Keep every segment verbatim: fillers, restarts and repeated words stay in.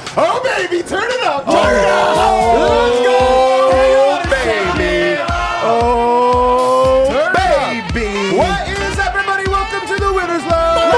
Oh, baby, turn it up. Turn oh, it up. Let's go. Oh, baby. Oh, turn baby. What is everybody? Welcome to the Winners Lounge.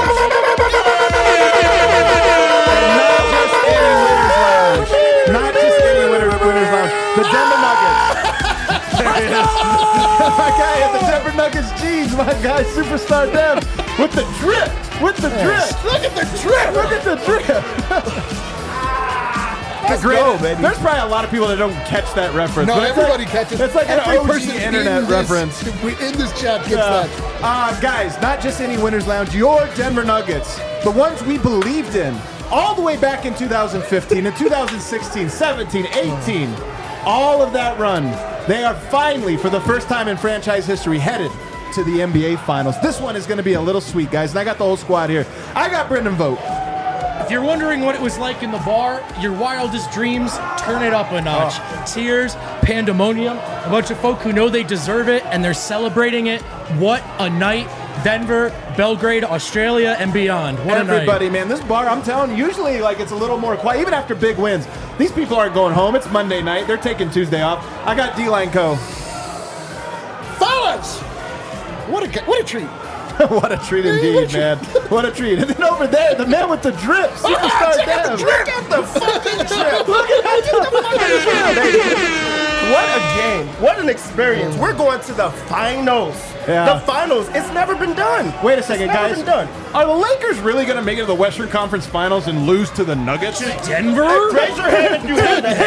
And not just any Winners Lounge. Not just any Winners, Winners Lounge. The Denver Nuggets. There it is. My guy at the Denver Nuggets jeans. My guy, Superstar Dev, with the drip. With the drip. Look at the drip. Look at the drip. Let's go, baby. There's probably a lot of people that don't catch that reference. No, everybody like, catches. It's like every an O G person internet in reference. This, in this chat gets yeah. that. Uh, guys, not just any Winners Lounge. Your Denver Nuggets, the ones we believed in, all the way back in two thousand fifteen, and two thousand sixteen, seventeen, eighteen, all of that run. They are finally, for the first time in franchise history, headed to the N B A Finals. This one is going to be a little sweet, guys, and I got the whole squad here. I got Brendan Vogt. If you're wondering what it was like in the bar, your wildest dreams, turn it up a notch. Oh. Tears, pandemonium, a bunch of folk who know they deserve it, and they're celebrating it. What a night. Denver, Belgrade, Australia, and beyond. What Everybody, a night. man, this bar, I'm telling you, usually like it's a little more quiet, even after big wins. These people aren't going home. It's Monday night. They're taking Tuesday off. I got D-Line Co. Fellas! What a, what a treat. What a treat indeed, man. What a treat. And then over there, the man with the drip, Superstar Dev. Look at the fucking drip. Look at the fucking drip. What a game. What an experience. We're going to the finals. Yeah. The finals. It's never been done. Wait a second, it's never guys. Been done. Are the Lakers really going to make it to the Western Conference Finals and lose to the Nuggets? To Denver? Hey, raise your hand if you had that.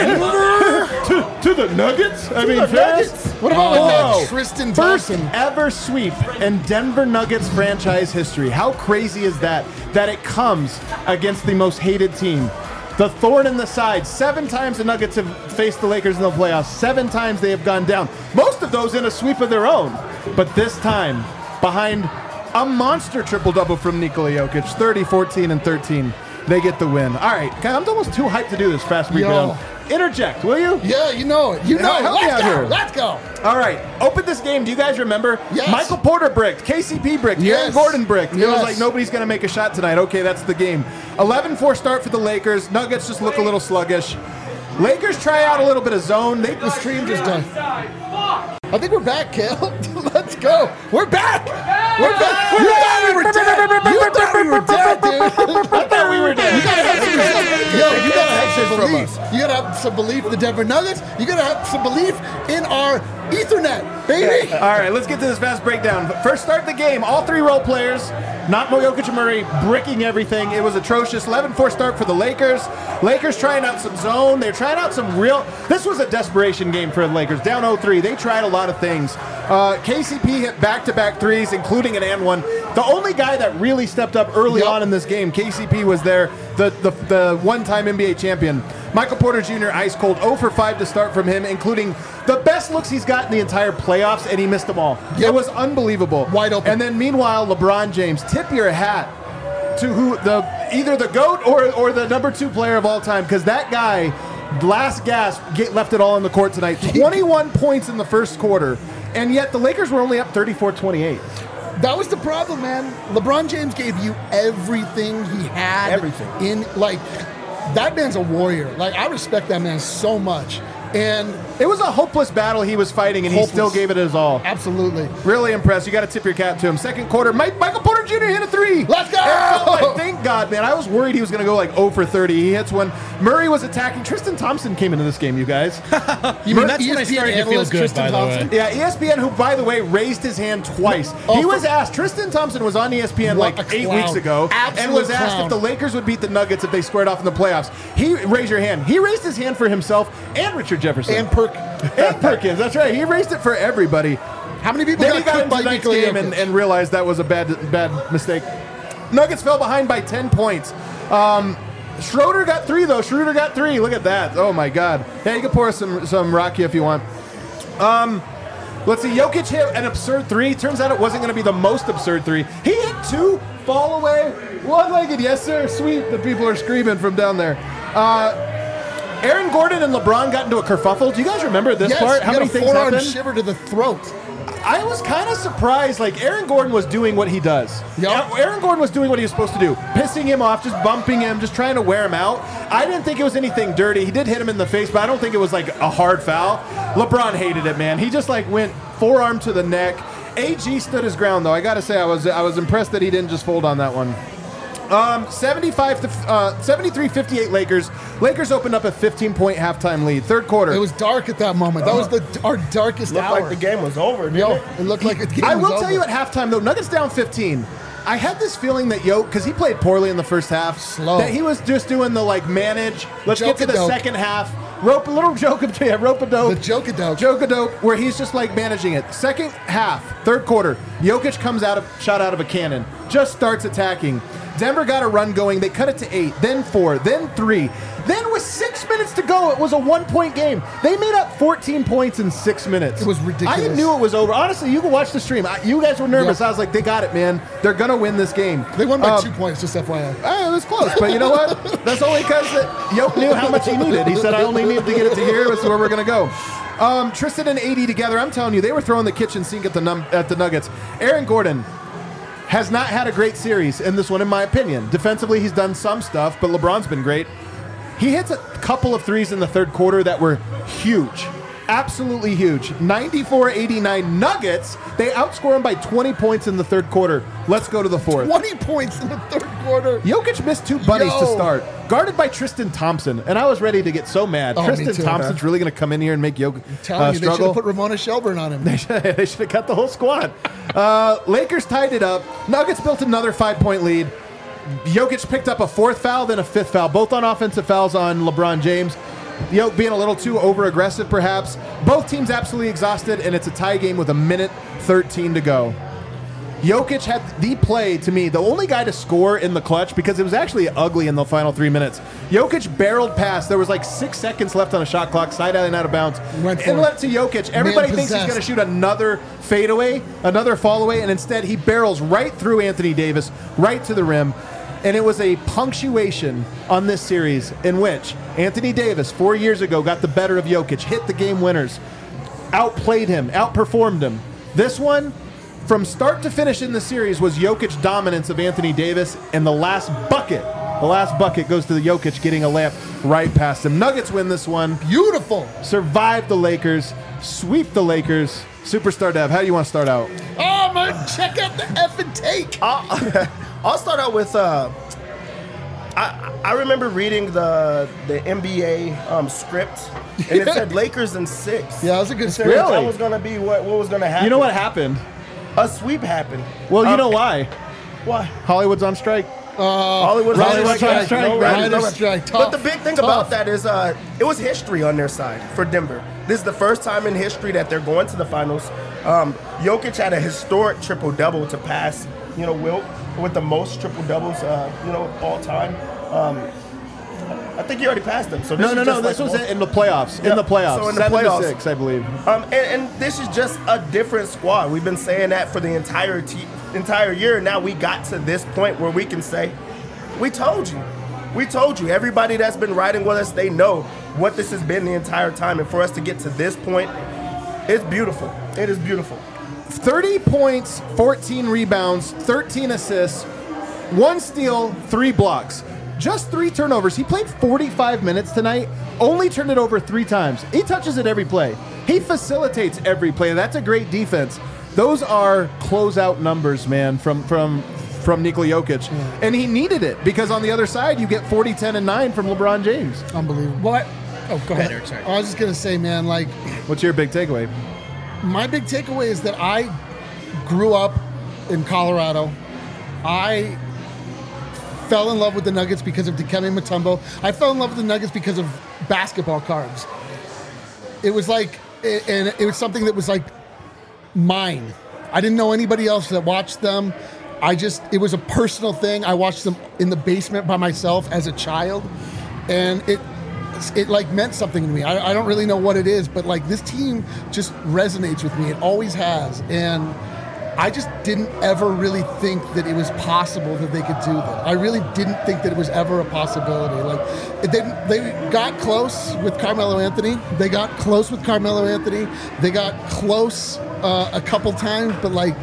to, to the Nuggets? I to mean, the Nuggets? What about oh, like that Tristan First Thompson? ever sweep in Denver Nuggets franchise history. How crazy is that? That it comes against the most hated team. The thorn in the side. Seven times the Nuggets have faced the Lakers in the playoffs. Seven times they have gone down. Most of those in a sweep of their own. But this time, behind a monster triple-double from Nikola Jokic, thirty, fourteen, and thirteen, they get the win. All right, I'm almost too hyped to do this fast breakdown. Interject, will you? Yeah, you know it. You know Help it. me Let's out go. here. Let's go. All right, open this game. Do you guys remember? Yes. Michael Porter bricked, K C P bricked, Yes. Aaron Gordon bricked. It Yes. was like nobody's going to make a shot tonight. Okay, that's the game. eleven four start for the Lakers. Nuggets just look a little sluggish. Lakers try out a little bit of zone. They The stream just done. I think we're back, Kale. Let's go. We're back. We're back. You thought we were dead. You thought we were dead, dude. I thought we were dead. You gotta have some, yo, you gotta have some from belief. us. You gotta have some belief in the Denver Nuggets. You gotta have some belief in our Ethernet, baby. All right, let's get to this fast breakdown. First start the game. All three role players, not Jokic and Murray, bricking everything. It was atrocious. eleven four start for the Lakers. Lakers trying out some zone. They're trying out some real... This was a desperation game for the Lakers. Down oh three. They tried a lot of things. Uh, K C P hit back-to-back threes, including an and one. The only guy that really stepped up early Yep. on in this game, K C P was there, the, the, the one-time N B A champion. Michael Porter Junior ice cold, zero for five to start from him, including the best looks he's got in the entire playoffs, and he missed them all. Yep. It was unbelievable. Wide open. And then meanwhile, LeBron James, tip your hat to who the either the GOAT or or the number two player of all time, because that guy, last gasp, get, left it all on the court tonight. twenty-one points in the first quarter, and yet the Lakers were only up thirty-four twenty-eight. That was the problem, man. LeBron James gave you everything he had. Everything. In, like, that man's a warrior. Like, I respect that man so much. And It was a hopeless battle he was fighting, and Hopeless. he still gave it his all. absolutely. Really impressed. You got to tip your cap to him. Second quarter, Mike, Michael Porter Junior hit a three. Let's go! It felt like, thank God, man. I was worried he was going to go like zero for thirty. He hits one. Murray was attacking. Tristan Thompson came into this game, you guys. You mean, that's E S P N when I started to feel analyst good, Tristan by the Thompson? way. Yeah, E S P N, who, by the way, raised his hand twice. Oh, he was for- asked, Tristan Thompson was on E S P N What like a eight clown. weeks ago, and Absolute was asked clown. if the Lakers would beat the Nuggets if they squared off in the playoffs. He raised your hand. He raised his hand for himself and Richard Jefferson. And Perk. And Perkins, that's right. He raised it for everybody. How many people Then he got got cooked into by tonight's Nikola game Jokic? and, and realized that was a bad bad mistake. Nuggets fell behind by ten points. Um, Schroeder got three, though. Schroeder got three. Look at that. Oh, my God. Yeah, you can pour us some, some Rocky if you want. Um, let's see. Jokic hit an absurd three. Turns out it wasn't going to be the most absurd three. He hit two, fall away, one-legged. Yes, sir. Sweet. The people are screaming from down there. Uh, Aaron Gordon and LeBron got into a kerfuffle. Do you guys remember this yes, part? you How got many a things forearm happened? shiver to the throat. I was kind of surprised. Like, Aaron Gordon was doing what he does. Yep. Aaron Gordon was doing what he was supposed to do. Pissing him off, just bumping him, just trying to wear him out. I didn't think it was anything dirty. He did hit him in the face, but I don't think it was like a hard foul. LeBron hated it, man. He just like went forearm to the neck. A G stood his ground, though. I got to say, I was I was impressed that he didn't just fold on that one. Um, seventy-five to uh, seventy-three fifty-eight Lakers. Lakers opened up a fifteen-point halftime lead. Third quarter. It was dark at that moment. That was the our darkest Looked hour. like the game was over, didn't Yo, it? it looked like the game I was will over. tell you at halftime, though, Nuggets down fifteen. I had this feeling that Yoke, because he played poorly in the first half, Slow. that he was just doing the, like, manage. Let's get to the Joke-a-doke. second half. Rope, a little joke, yeah, rope-a-dope. The joke-a-doke. Joke-a-dope, where he's just, like, managing it. Second half, third quarter, Jokic comes out of, shot out of a cannon, just starts attacking. Denver got a run going. They cut it to eight, then four, then three. Then with six minutes to go, it was a one-point game. They made up fourteen points in six minutes. It was ridiculous. I knew it was over. Honestly, you can watch the stream. I, you guys were nervous. Yeah. I was like, they got it, man. They're going to win this game. They won by Um, two points, just F Y I. eh, it was close, but you know what? That's only because Yoke knew how much he needed. He said, I only needed to get it to here. That's where we're going to go. Um, Tristan and A D together, I'm telling you, they were throwing the kitchen sink at the, num- at the Nuggets. Aaron Gordon has not had a great series in this one, in my opinion. Defensively, he's done some stuff, but LeBron's been great. He hits a couple of threes in the third quarter that were huge. Absolutely huge. ninety-four eighty-nine Nuggets. They outscore him by twenty points in the third quarter. Let's go to the fourth. twenty points in the third quarter. Jokic missed two bunnies to Yo. start, guarded by Tristan Thompson, and I was ready to get so mad. Oh, me Tristan too, Thompson's man. really going to come in here and make Jokic Telling uh, you, they should struggle. have put Ramona Shelburne on him. They should have cut the whole squad. Uh, Lakers tied it up. Nuggets built another five-point lead. Jokic picked up a fourth foul, then a fifth foul, both on offensive fouls on LeBron James. Jokic being a little too over-aggressive, perhaps. Both teams absolutely exhausted, and it's a tie game with a minute thirteen to go. Jokic had the play, to me, the only guy to score in the clutch, because it was actually ugly in the final three minutes. Jokic barreled past. There was like six seconds left on the shot clock, side out and out of bounds. Went for and it. left to Jokic. Everybody thinks he's possessed. going to shoot another fadeaway, another fall away, and instead he barrels right through Anthony Davis, right to the rim. And it was a punctuation on this series in which Anthony Davis, four years ago, got the better of Jokic, hit the game winners, outplayed him, outperformed him. This one, from start to finish in the series, was Jokic's dominance of Anthony Davis, and the last bucket, the last bucket goes to the Jokic getting a layup right past him. Nuggets win this one, Beautiful. survive the Lakers, sweep the Lakers. Superstar Dev, how do you want to start out? Oh, man, check out the effing take. I'll, I'll start out with. Uh, I I remember reading the the N B A um, script, and it said Lakers in six. Yeah, that was a good It said script. Really? That was gonna be what what was gonna happen. You know what happened? A sweep happened. Well, you Um, know why. Why? Hollywood's on strike. Hollywood's Writers on strike, strike. No, writers writers strike. on strike. But Tough. the big thing Tough. about that is uh, it was history on their side for Denver. This is the first time in history that they're going to the finals. Um, Jokic had a historic triple double to pass, you know, Wilt with the most triple doubles, uh, you know, all time. Um, I think he already passed them. So this No, is no, no. just This like was one- in the playoffs. Yeah, In the playoffs. so in the Seven playoffs. to six, I believe. Um, and, and this is just a different squad. We've been saying that for the entire te- entire year. Now we got to this point where we can say, we told you. We told you. Everybody that's been riding with us, they know what this has been the entire time. And for us to get to this point, it's beautiful. It is beautiful. thirty points, fourteen rebounds, thirteen assists, one steal, three blocks. Just three turnovers. He played forty-five minutes tonight, only turned it over three times. He touches it every play. He facilitates every play. That's a great defense. Those are closeout numbers, man, from from from Nikola Jokic. And he needed it because on the other side, you get forty, ten, and nine from LeBron James. Unbelievable. What? Oh, go ahead, Eric. Sorry. I was just going to say, man, like, What's your big takeaway? my big takeaway is that I grew up in Colorado. I fell in love with the Nuggets because of Dikembe Mutombo. I fell in love with the Nuggets because of basketball cards. It was like, and it was something that was like mine. I didn't know anybody else that watched them. I just, it was a personal thing. I watched them in the basement by myself as a child, and it, it like meant something to me. I, I don't really know what it is, but like this team just resonates with me. It always has, and I just didn't ever really think that it was possible that they could do that. I really didn't think that it was ever a possibility. Like they they got close with Carmelo Anthony. They got close with Carmelo Anthony. They got close uh, a couple times, but like.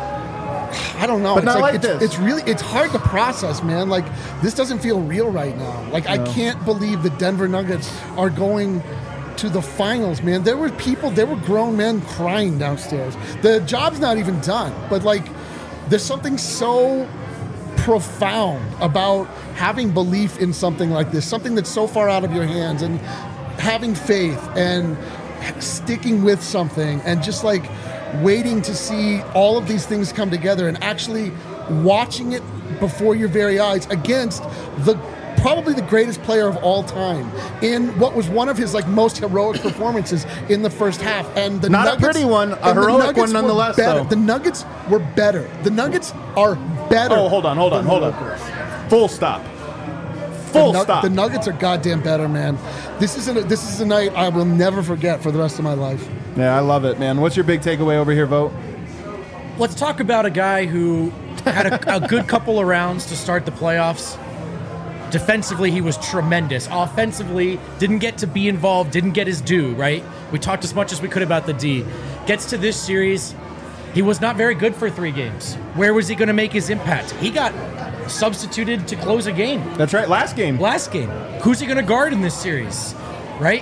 I don't know. But it's not like it's, this. It's really it's hard to process, man. Like this doesn't feel real right now. Like I can't believe the Denver Nuggets are going to the finals, man. There were people, there were grown men crying downstairs. The job's not even done, but like there's something so profound about having belief in something like this, something that's so far out of your hands, and having faith and sticking with something and just like waiting to see all of these things come together and actually watching it before your very eyes against the probably the greatest player of all time in what was one of his like most heroic performances in the first half. And the Not Nuggets, a pretty one, a and the heroic Nuggets one were nonetheless, better. though. The Nuggets were better. The Nuggets are better. Oh, hold on, hold on, than hold the on. Lakers. Full stop. Full the, Nu- stop. the Nuggets are goddamn better, man. This is a, this is a night I will never forget for the rest of my life. Yeah, I love it, man. What's your big takeaway over here, Vote? Let's talk about a guy who had a, a good couple of rounds to start the playoffs. Defensively, he was tremendous. Offensively, didn't get to be involved, didn't get his due, right? We talked as much as we could about the D. Gets to this series, he was not very good for three games. Where was he going to make his impact? He got substituted to close a game. That's right, last game. Last game. Who's he going to guard in this series, right?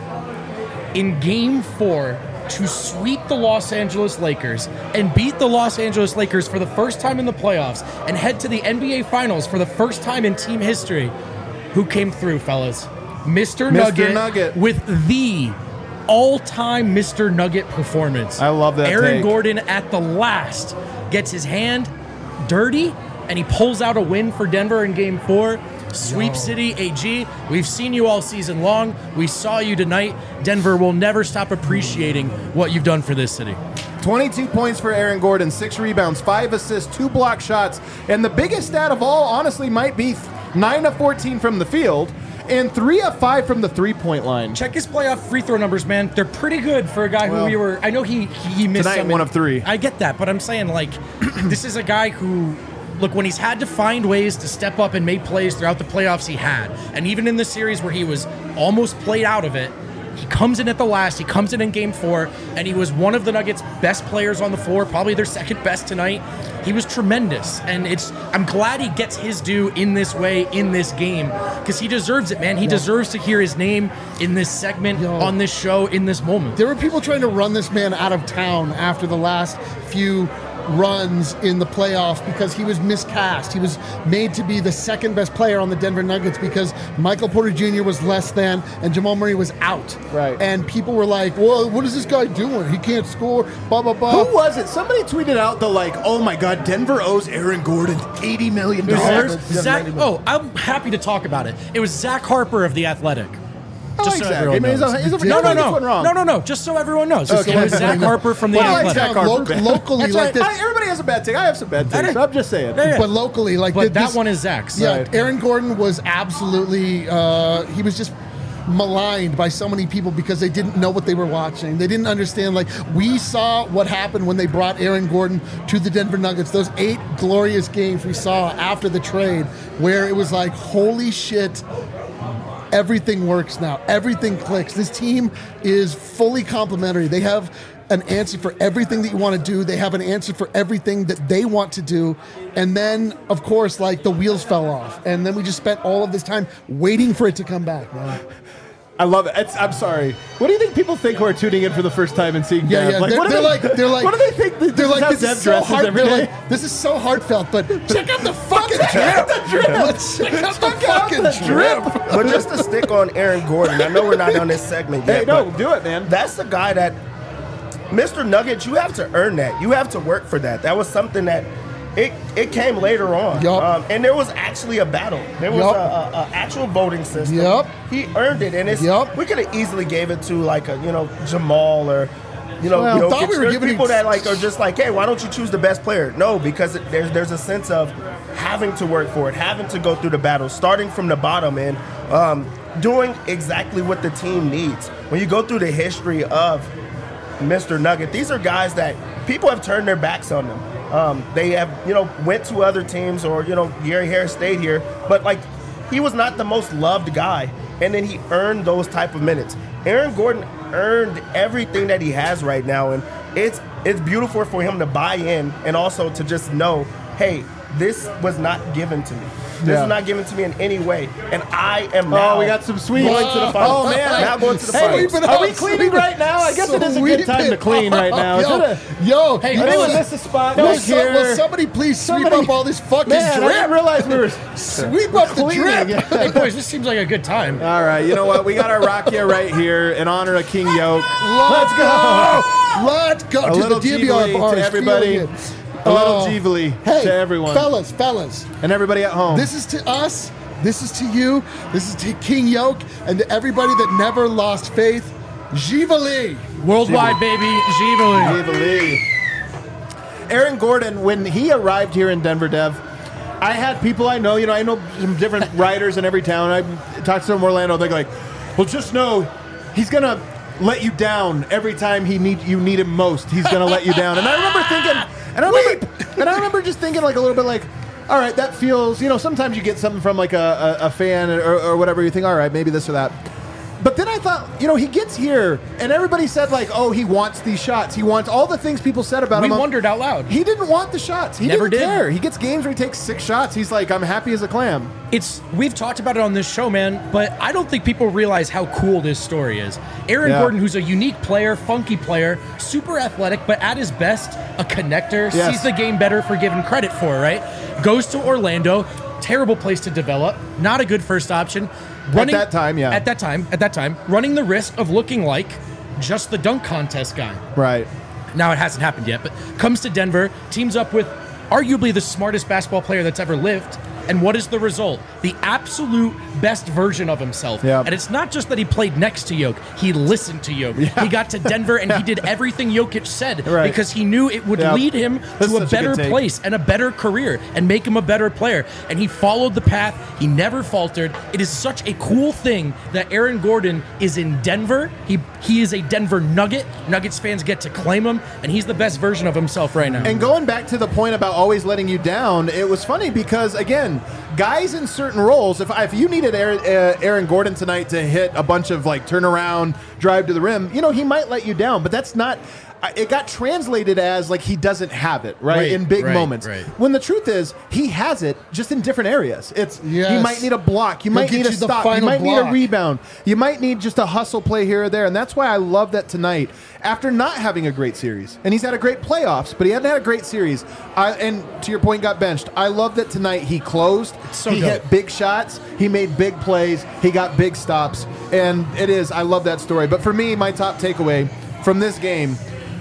In game four, to sweep the Los Angeles Lakers and beat the Los Angeles Lakers for the first time in the playoffs and head to the N B A Finals for the first time in team history. Who came through, fellas? Mister Mister Nugget, Nugget. with the all-time Mister Nugget performance. I love that Aaron take. Gordon at the last gets his hand dirty and he pulls out a win for Denver in game four. Sweep City A G, we've seen you all season long. We saw you tonight. Denver will never stop appreciating what you've done for this city. twenty-two points for Aaron Gordon, six rebounds, five assists, two block shots, and the biggest stat of all, honestly, might be nine of fourteen from the field and three of five from the three-point line. Check his playoff free throw numbers, man. They're pretty good for a guy Well, who we were. I know he he missed tonight, some. one of three. I get that, but I'm saying like this is a guy who. Look, when he's had to find ways to step up and make plays throughout the playoffs, he had. And even in the series where he was almost played out of it, he comes in at the last, he comes in in game four, and he was one of the Nuggets' best players on the floor, probably their second best tonight. He was tremendous. And it's I'm glad he gets his due in this way, in this game, because he deserves it, man. He deserves to hear his name in this segment, Yo. on this show, in this moment. There were people trying to run this man out of town after the last few runs in the playoffs because he was miscast. He was made to be the second best player on the Denver Nuggets because Michael Porter Junior was less than and Jamal Murray was out. Right. And people were like, well, what is this guy doing? He can't score, blah, blah, blah. Who was it? Somebody tweeted out the like, oh my God, Denver owes Aaron Gordon eighty million It was dollars. Zach, oh, I'm happy to talk about it. It was Zach Harper of The Athletic. I like Zach. I mean, he's a- he's a- no, no, nobody gets one no, wrong. no, no, no. Just so everyone knows, Okay. it was Zach Harper from The Well, I like Athletic. Zach Harper, Lo- man. locally That's like right. this. I- everybody has a bad take. I have some bad takes. I'm just saying. Yeah, yeah. But locally, like But th- that this- one is Zach's. Yeah, Right. Aaron Gordon was absolutely. Uh, he was just maligned by so many people because they didn't know what they were watching. They didn't understand. Like we saw what happened when they brought Aaron Gordon to the Denver Nuggets. Those eight glorious games we saw after the trade, where it was like, holy shit. Everything works now. Everything clicks. This team is fully complementary. They have an answer for everything that you want to do. They have an answer for everything that they want to do. And then, of course, like the wheels fell off. And then we just spent all of this time waiting for it to come back, man. I love it. It's, I'm sorry. What do you think people think who are tuning in for the first time and seeing Yeah, Dev? yeah. Like, they're, what do they're they, like, they're like, what do they think? That they're this like, is how this Dev is so dresses hard. every They're day? like, this is so heartfelt. But check out the fucking drip. Let's check out the Check out fucking the drip. drip. But just to stick on Aaron Gordon, I know we're not on this segment yet. Hey, no, but do it, man. That's the guy that, Mister Nugget, you have to earn that. You have to work for that. That was something that it it came later on. Yup. Um, and there was actually a battle. There was Yup. a, a, a actual voting system. Yup. He earned it, and it's Yup. we could have easily gave it to like a you know Jamal or. You know, Well, Jokic. thought we were There's giving people him- that like are just like, hey, why don't you choose the best player? No, because it, there's there's a sense of having to work for it, having to go through the battle, starting from the bottom, and um, doing exactly what the team needs. When you go through the history of Mister Nugget, these are guys that people have turned their backs on them. Um, they have, you know, went to other teams, or you know, Gary Harris stayed here, but like he was not the most loved guy, and then he earned those type of minutes. Aaron Gordon earned everything that he has right now, and it's it's beautiful for him to buy in and also to just know, hey, this was not given to me. This Yeah. is not given to me in any way, and I am now. Oh, we got some sweets. going to the finals. Oh, man. now going to the Hey, finals. Sweep it Are up, we cleaning sweep it. right now? I guess it is a good time to clean right now. Is Yo, it a- yo, Hey, you I know think what? we missed a spot Will, back so- will here. somebody please sweep Somebody- up all this fucking Man, I drip? didn't realize we were. Sweep up the cleaning. drip. Yeah. Hey, boys, this seems like a good time. All right, you know what? We got our Rakia right here in honor of King Yoke. Let's go. Let's go. A to little the D B R Givali bars. to everybody. feeling it. A little Oh. Givali Hey, to everyone. fellas, fellas. And everybody at home. This is to us. This is to you. This is to King Yoke and to everybody that never lost faith. Givali. Worldwide, baby. Givali. Givali. Aaron Gordon, when he arrived here in Denver, Dev, I had people I know, you know, I know some different writers in every town. I talked to them in Orlando. They're like, well, just know he's going to let you down every time he need you need him most. He's going to let you down. And I remember thinking, and I remember, and I remember just thinking like a little bit like, all right, that feels, you know, sometimes you get something from like a, a, a fan or, or whatever. You think, all right, maybe this or that. But then I thought, you know, he gets here and everybody said like, oh, he wants these shots. He wants all the things people said about We him. wondered out loud. He didn't want the shots. He Never didn't did. care. He gets games where he takes six shots. He's like, I'm happy as a clam. It's we've talked about it on this show, man, but I don't think people realize how cool this story is. Aaron Yeah. Gordon, who's a unique player, funky player, super athletic, but at his best, a connector, Yes. sees the game better for given credit for, right? Goes to Orlando, terrible place to develop, not a good first option. Running, that time, yeah. At that time, at that time, running the risk of looking like just the dunk contest guy. Right. Now it hasn't happened yet, but comes to Denver, teams up with arguably the smartest basketball player that's ever lived. And what is the result? The absolute best version of himself. Yeah. And it's not just that he played next to Jokic. He listened to Jokic. Yeah. He got to Denver and he did everything Jokic said Right. because he knew it would Yeah. lead him That's to a such a better good take. place and a better career and make him a better player. And he followed the path. He never faltered. It is such a cool thing that Aaron Gordon is in Denver. He he is a Denver Nugget. Nuggets fans get to claim him, and he's the best version of himself right now. And going back to the point about always letting you down, it was funny because, again, guys in certain roles, if, if you needed Aaron, uh, Aaron Gordon tonight to hit a bunch of like turnaround, drive to the rim, you know, he might let you down, but that's not. I- It got translated as like he doesn't have it, right? Right, in big right, moments. right. When the truth is, he has it just in different areas. It's he Yes. might need a block, you He'll might get need a you the stop, you final might need a block. rebound, you might need just a hustle play here or there, and that's why I love that tonight. After not having a great series, and he's had a great playoffs, but he hadn't had a great series. I, and to your point, got benched. I love that tonight he closed. so he dope. hit big shots. He made big plays. He got big stops, and it is. I love that story. But for me, my top takeaway from this game.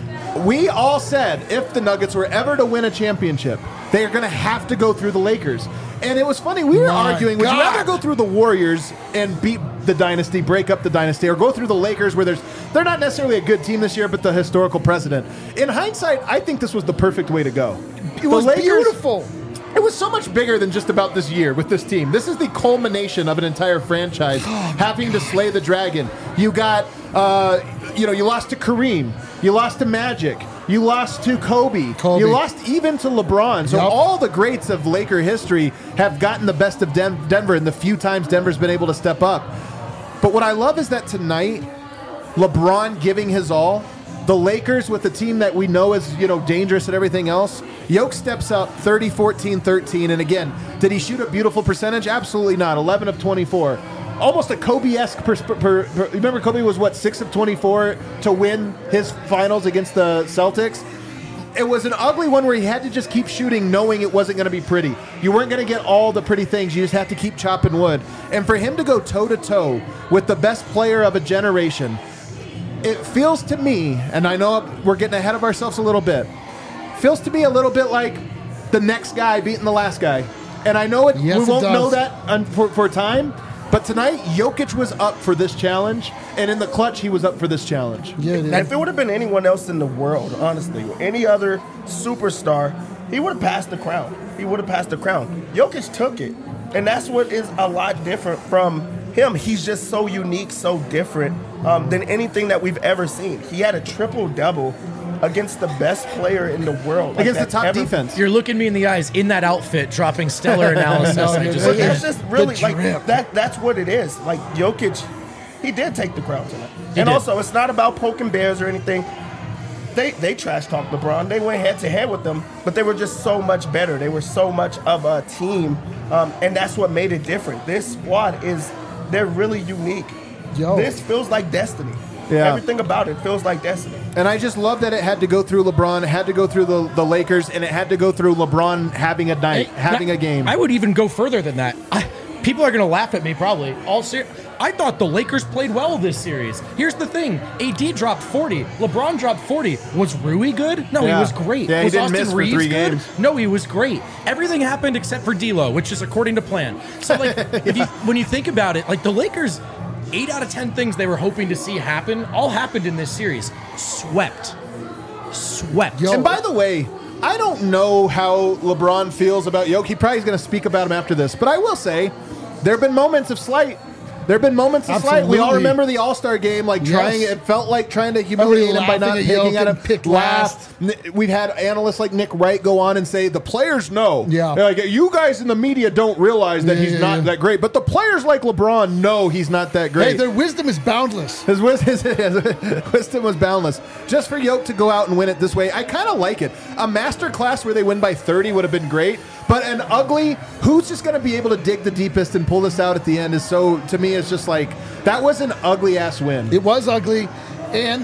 We all said if the Nuggets were ever to win a championship, they are going to have to go through the Lakers. And it was funny. We were My arguing, would you God. rather go through the Warriors and beat the dynasty, break up the dynasty, or go through the Lakers where there's they're not necessarily a good team this year, but the historical precedent? In hindsight, I think this was the perfect way to go. It was beautiful. It was so much bigger than just about this year with this team. This is the culmination of an entire franchise having to slay the dragon. You got, uh, you know, you lost to Kareem. You lost to Magic. You lost to Kobe. Kobe. You lost even to LeBron. So Yep. all the greats of Laker history have gotten the best of Den- Denver in the few times Denver's been able to step up. But what I love is that tonight, LeBron giving his all, the Lakers with a team that we know is, you know, dangerous and everything else. Yoke steps up thirty, fourteen, thirteen. And again, did he shoot a beautiful percentage? Absolutely not. eleven of twenty-four. Almost a Kobe-esque. Per, per, per, remember, Kobe was, what, six of twenty-four to win his finals against the Celtics? It was an ugly one where he had to just keep shooting knowing it wasn't going to be pretty. You weren't going to get all the pretty things. You just had to keep chopping wood. And for him to go toe-to-toe with the best player of a generation, it feels to me, and I know we're getting ahead of ourselves a little bit, feels to me a little bit like the next guy beating the last guy. And I know it, Yes, we it won't does. know that un- for, for time, but tonight Jokic was up for this challenge, and in the clutch he was up for this challenge. Yeah, it And is. if it would have been anyone else in the world, honestly, any other superstar, he would have passed the crown. He would have passed the crown. Jokic took it. And that's what is a lot different from him. He's just so unique, so different um, than anything that we've ever seen. He had a triple-double against the best player in the world. Like, Against the that's top ever- defense. You're looking me in the eyes in that outfit, dropping stellar analysis. No, I no, just no, But Yeah. that's just really The like drip. that. That's what it is. Like Jokic, he did take the crown tonight. He and did. also, it's not about poking bears or anything. they they trash talked LeBron. They went head to head with them, but they were just so much better. They were so much of a team, um, and that's what made it different. This squad is they're really unique. Yo. This feels like destiny. Yeah. Everything about it feels like destiny. And I just love that it had to go through LeBron, it had to go through the, the Lakers, and it had to go through LeBron having a night, Hey, having that- a game. I would even go further than that. I, people are going to laugh at me probably. All ser- I thought the Lakers played well this series. Here's the thing: A D dropped forty, LeBron dropped forty. Was Rui good? No, Yeah. he was great. Yeah, he was didn't Austin miss for Reeves three good? games. No, he was great. Everything happened except for D'Lo, which is according to plan. So, like, if you when you think about it, like the Lakers, eight out of ten things they were hoping to see happen all happened in this series. Swept, swept. Yo. And by the way, I don't know how LeBron feels about Jokic. He probably is going to speak about him after this. But I will say, there have been moments of slight. There have been moments of slight. We all Absolutely. remember the All-Star game, like trying. Yes. It felt like trying to humiliate him by laughing not at picking Jokic at him. and pick Laugh. N- We've had analysts like Nick Wright go on and say the players know. Yeah. They're like, you guys in the media don't realize that Yeah, he's yeah, not yeah. that great, but the players like LeBron know he's not that great. Hey, their wisdom is boundless. His, wis- his, his wisdom was boundless. Just for Yoke to go out and win it this way, I kind of like it. A master class where they win by thirty would have been great, but an ugly, who's just going to be able to dig the deepest and pull this out at the end is so, to me, it's just like, that was an ugly-ass win. It was ugly, and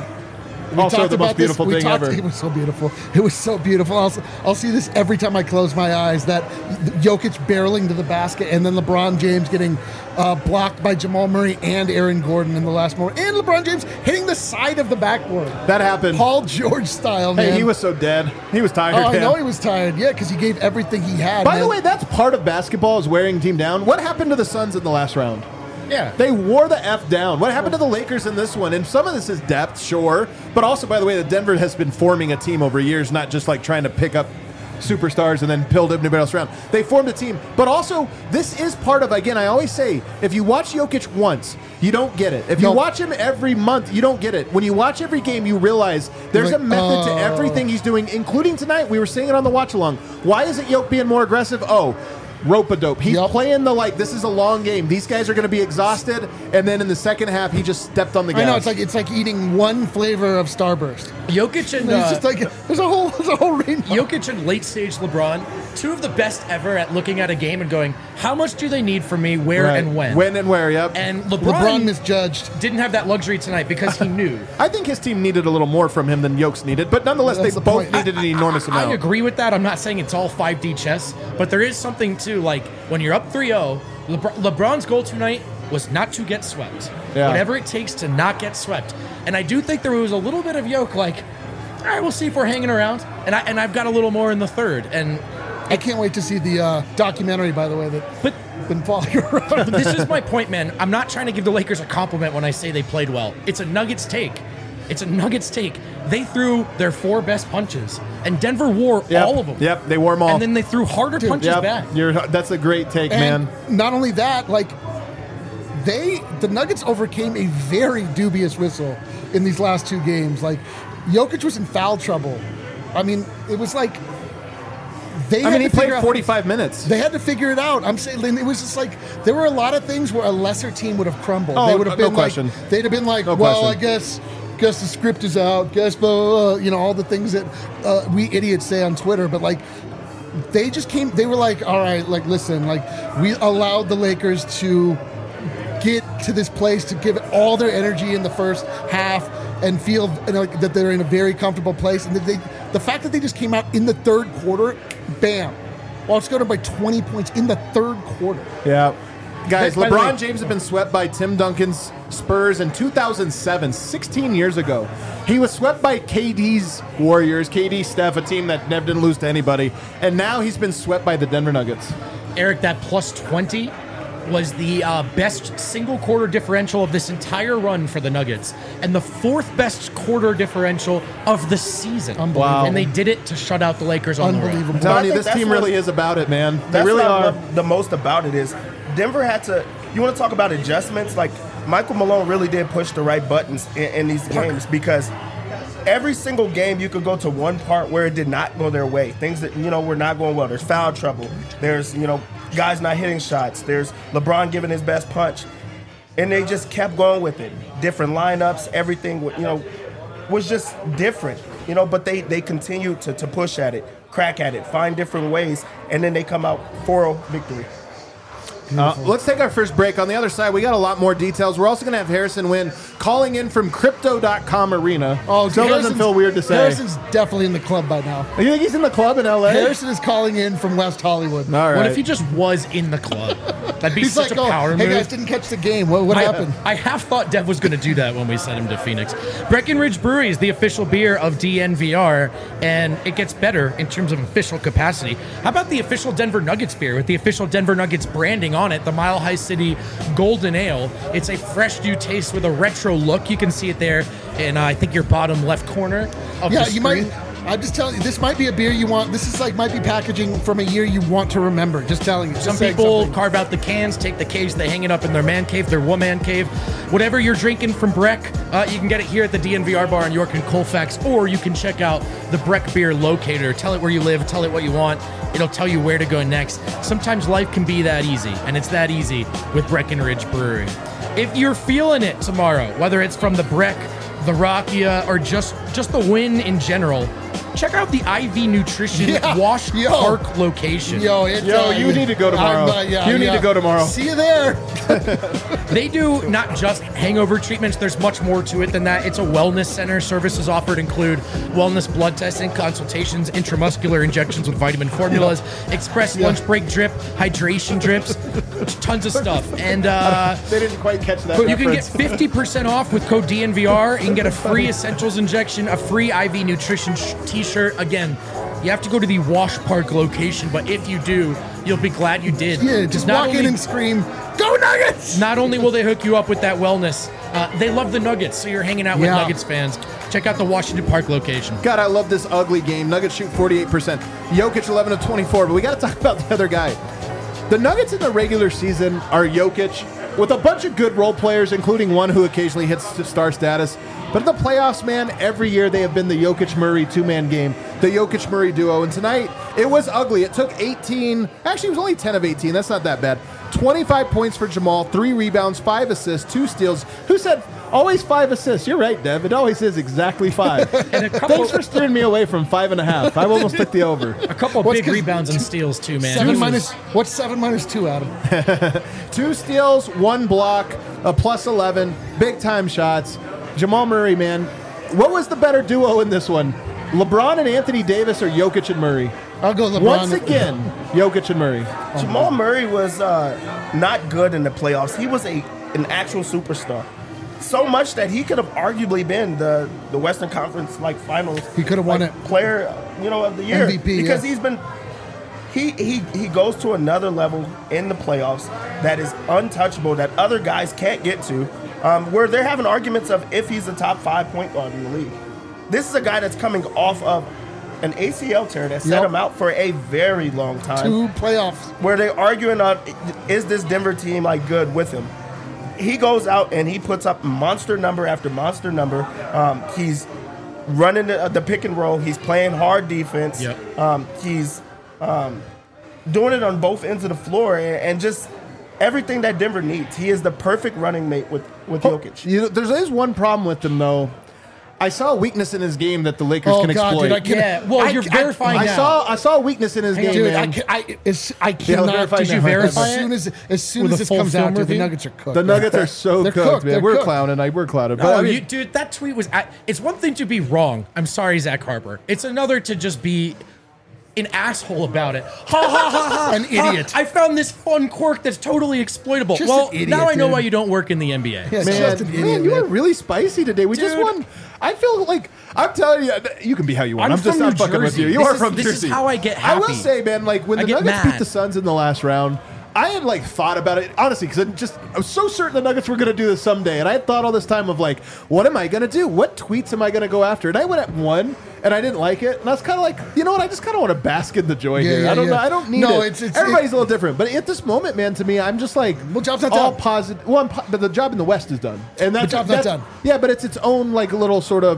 we Also talked the most about this- beautiful we thing talked- ever. It was so beautiful. It was so beautiful. I'll, I'll see this every time I close my eyes, that Jokic barreling to the basket and then LeBron James getting uh, blocked by Jamal Murray and Aaron Gordon in the last moment. And LeBron James hitting the side of the backboard. That happened. Paul George style, man. Hey, he was so dead. He was tired. Oh, I man. know he was tired. Yeah, because he gave everything he had. By man. the way, that's part of basketball is wearing a team down. What happened to the Suns in the last round? Yeah. They wore the F down. What happened to the Lakers in this one? And some of this is depth, sure. But also, by the way, that Denver has been forming a team over years, not just like trying to pick up superstars and then build everybody else around. They formed a team. But also, this is part of, again, I always say, if you watch Jokic once, you don't get it. If you No. watch him every month, you don't get it. When you watch every game, you realize there's Like, a method to oh. everything he's doing, including tonight. We were saying it on the watch along. Why isn't Jokic being more aggressive? Oh, rope-a-dope. He's Yep. playing the, like, this is a long game. These guys are going to be exhausted. And then in the second half, he just stepped on the gas. I know, it's like it's like eating one flavor of Starburst. Jokic and It's uh, just like, there's a whole, there's a whole range. Jokic and late stage LeBron, two of the best ever at looking at a game and going, how much do they need from me, where Right. and when? When and where, yep. And LeBron LeBron, misjudged. didn't have that luxury tonight because he knew. I think his team needed a little more from him than Yokes needed, but nonetheless, That's they the both point. needed an enormous amount. I agree with that. I'm not saying it's all five D chess, but there is something too, like when you're up three oh, Lebr- LeBron's goal tonight was not to get swept. Yeah. Whatever it takes to not get swept. And I do think there was a little bit of yoke, like, all right, we'll see if we're hanging around. And, I, and I've got a little more in the third. And I can't wait to see the uh, documentary, by the way, that But been following around. this is my point, man. I'm not trying to give the Lakers a compliment when I say they played well. It's a Nuggets take. It's a Nuggets take. They threw their four best punches, and Denver wore Yep. all of them. Yep, they wore them all. And then they threw harder punches yep, back. You're, that's a great take, And man. not only that, like they, the Nuggets overcame a very dubious whistle in these last two games. Like Jokic was in foul trouble. I mean, it was like they. I had mean, he to figure played out- forty-five minutes. They had to figure it out. I'm saying it was just like there were a lot of things where a lesser team would have crumbled. Oh, they would have no been question. like, they'd have been like, No well, question. I guess, guess the script is out. Guess, blah, blah, blah, you know, all the things that uh, we idiots say on Twitter. But like, they just came. They were like, all right, like, listen, like, we allowed the Lakers to get to this place to give it all their energy in the first half and feel you know, like, that they're in a very comfortable place. And that they, the fact that they just came out in the third quarter, bam, well, it's going by twenty points in the third quarter. Yeah. Guys, By the LeBron way- James had been swept by Tim Duncan's Spurs in two thousand seven, sixteen years ago. He was swept by K D's Warriors, K D Steph, a team that never didn't lose to anybody. And now he's been swept by the Denver Nuggets. Eric, that plus twenty was the uh, best single quarter differential of this entire run for the Nuggets and the fourth best quarter differential of the season. Unbelievable. Wow. And they did it to shut out the Lakers on the road. Unbelievable. I'm telling I you, think this that's team what- really is about it, man. They That's really what I are. love the most about it is Denver had to. You want to talk about adjustments? Like Michael Malone really did push the right buttons in, in these games because every single game you could go to one part where it did not go their way. Things that you know were not going well. There's foul trouble. There's you know guys not hitting shots. There's LeBron giving his best punch, and they just kept going with it. Different lineups, everything. You know, was just different, you know. But they they continue to to push at it, crack at it, find different ways, and then they come out four oh victory. Uh, let's take our first break. On the other side, we got a lot more details. We're also going to have Harrison Wynn calling in from Crypto dot com Arena. Oh, Still doesn't feel weird to say. Harrison's definitely in the club by now. You think he's in the club in L A? Harrison is calling in from West Hollywood. All right. What if he just was in the club? That'd be He's such like, a oh, power hey move. guys, didn't catch the game. What, what I, happened? I half thought Dev was going to do that when we sent him to Phoenix. Breckenridge Brewery is the official beer of D N V R, and it gets better in terms of official capacity. How about the official Denver Nuggets beer with the official Denver Nuggets branding on it, the Mile High City Golden Ale? It's a fresh new taste with a retro look. You can see it there in, uh, I think, your bottom left corner of Yeah, the you screen. might. I'm just telling you, this might be a beer you want. This is like might be packaging from a year you want to remember. Just telling you. Just Some saying people something. carve out the cans, take the cage, they hang it up in their man cave, their woman cave. Whatever you're drinking from Breck, uh, you can get it here at the D N V R bar in York and Colfax, or you can check out the Breck Beer Locator. Tell it where you live, tell it what you want. It'll tell you where to go next. Sometimes life can be that easy, and it's that easy with Breckenridge Brewery. If you're feeling it tomorrow, whether it's from the Breck, the Rockia, or just, just the win in general, check out the I V Nutrition Yeah. Wash Yo. Park location. Yo, it's, Yo, uh, you need to go tomorrow. I'm, uh, yeah, You need yeah. to go tomorrow. See you there. They do not just hangover treatments. There's much more to it than that. It's a wellness center. Services offered include wellness blood testing, consultations, intramuscular injections with vitamin formulas, express lunch break drip, hydration drips, tons of stuff. And uh, They didn't quite catch that you can get reference. fifty percent off with code D N V R. You can get a free Essentials injection, a free I V Nutrition sh- t-shirt. Again, you have to go to the Wash Park location, but if you do, you'll be glad you did. Yeah, just Not walk in only- and scream, "Go Nuggets!" Not only will they hook you up with that wellness, uh, they love the Nuggets, so you're hanging out with Yeah. Nuggets fans. Check out the Washington Park location. God, I love this ugly game. Nuggets shoot forty-eight percent. Jokic eleven of twenty-four, but we got to talk about the other guy. The Nuggets in the regular season are Jokic with a bunch of good role players, including one who occasionally hits star status. But in the playoffs, man, every year they have been the Jokic-Murray two-man game, the Jokic-Murray duo. And tonight, it was ugly. It took eighteen. Actually, it was only ten of eighteen. That's not that bad. twenty-five points for Jamal, three rebounds, five assists, two steals. Who said always five assists? You're right, Dev. It always is exactly five. And a couple, Thanks for steering me away from five and a half. I almost took the over. a couple of What's big 'cause rebounds and steals too, man. Seven This minus. is- What's seven minus two, Adam? Two steals, one block, a plus eleven, big time shots. Jamal Murray, man. What was the better duo in this one? LeBron and Anthony Davis or Jokic and Murray? I'll go LeBron. Once again, Jokic and Murray. Jamal Murray was uh, not good in the playoffs. He was a an actual superstar. So much that he could have arguably been the, the Western Conference like Finals. He could have won like, it. Player, you know, of the year M V P, because yeah. he's been he he he goes to another level in the playoffs that is untouchable that other guys can't get to. Um, where they're having arguments of if he's a top five point guard in the league. This is a guy that's coming off of an A C L tear that set Yep. him out for a very long time Two playoffs. where they're arguing on is this Denver team like good with him. He goes out and he puts up monster number after monster number. Um, he's running the, the pick and roll. He's playing hard defense. Yep. Um, he's um, doing it on both ends of the floor and, and just everything that Denver needs. He is the perfect running mate with with Jokic. You know, there's always one problem with him, though. I saw a weakness in his game that the Lakers Oh can God, exploit. dude, I can't. Yeah, well, I- you're I- verifying I now. saw I saw a weakness in his game, Dude, man. I, can, I, it's, I Yeah, cannot. verify Did you now. verify As it? soon as as soon With as a this full comes out, film dude, the review? Nuggets are cooked. The Nuggets are so They're cooked, cooked. man. They're We're cooked. clowning. I, we're clouded. But Oh, I mean, you, dude, that tweet was. I, it's one thing to be wrong. I'm sorry, Zach Harper. It's another to just be an asshole about it. Ha ha ha ha. An ha. idiot. I found this fun quirk that's totally exploitable. Just well, an idiot, now I know dude. why you don't work in the N B A. Yeah, man, just an idiot, man, you man. were really spicy today. We just Dude. won. I feel like I'm telling you, you can be how you want. I'm I'm, just from not New fucking with Jersey. you. You This are is- from this is Jersey. how I get I will happy. say, man, like when I the get Nuggets mad. beat the Suns in the last round, I had like thought about it honestly because I just I was so certain the Nuggets were going to do this someday, and I had thought all this time of like, what am I going to do? What tweets am I going to go after? And I went at one, and I didn't like it, and I was kind of like, you know what? I just kind of want to bask in the joy Yeah, here. yeah, I don't yeah. know. I don't need No, it. it's- it's- Everybody's a little different, but at this moment, man, to me, I'm just like, Well, job's not all done. positive. Well, I'm po- but the job in the West is done, and that's job's not that's- done. Yeah, but it's its own like little sort of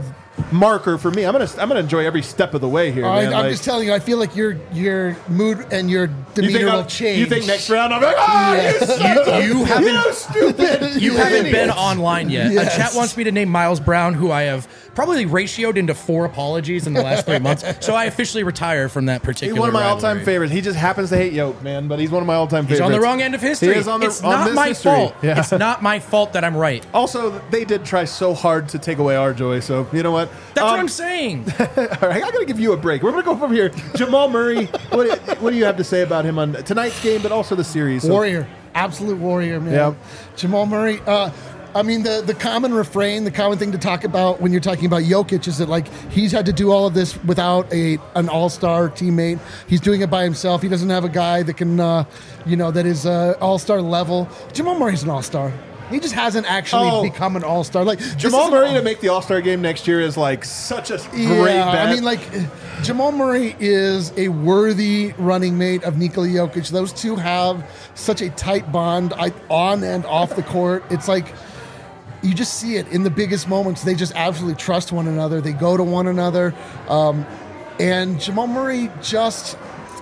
marker for me. I'm gonna I'm gonna enjoy every step of the way here. I, man. I'm Like, just telling you, I feel like your your mood and your you demeanor think, will I'll- change. you think next round I'm like, ah, Yes. you son of a- You haven't- you stupid. You Yeah. haven't been Idiots. online yet. Yes. A chat wants me to name Miles Brown, who I have probably ratioed into four apologies in the last three months. So I officially retire from that He's particular. one of my all-time rivalry. favorites. He just happens to hate Yoke, man, but he's one of my all-time He's favorites. on the wrong end of history. He is on the- it's on not this my history. fault. Yeah. It's not my fault that I'm right. Also, they did try so hard to take away our joy, so you know what? That's Um, what I'm saying. All right, I gotta give you a break. We're gonna go from here. Jamal Murray, what, what do you have to say about him on tonight's game, but also the series? So- Warrior, absolute warrior, man. Yeah. Jamal Murray. Uh, I mean, the the common refrain, the common thing to talk about when you're talking about Jokic is that like he's had to do all of this without a an all star teammate. He's doing it by himself. He doesn't have a guy that can, uh, you know, that is uh, all star level. Jamal Murray's an all star. He just hasn't actually Oh. become an all star. Like this Jamal is an Murray all- to make the All-Star game next year is like such a great Yeah, bet. I mean, like Jamal Murray is a worthy running mate of Nikola Jokic. Those two have such a tight bond I, on and off the court. It's like you just see it in the biggest moments. They just absolutely trust one another. They go to one another, um, and Jamal Murray just.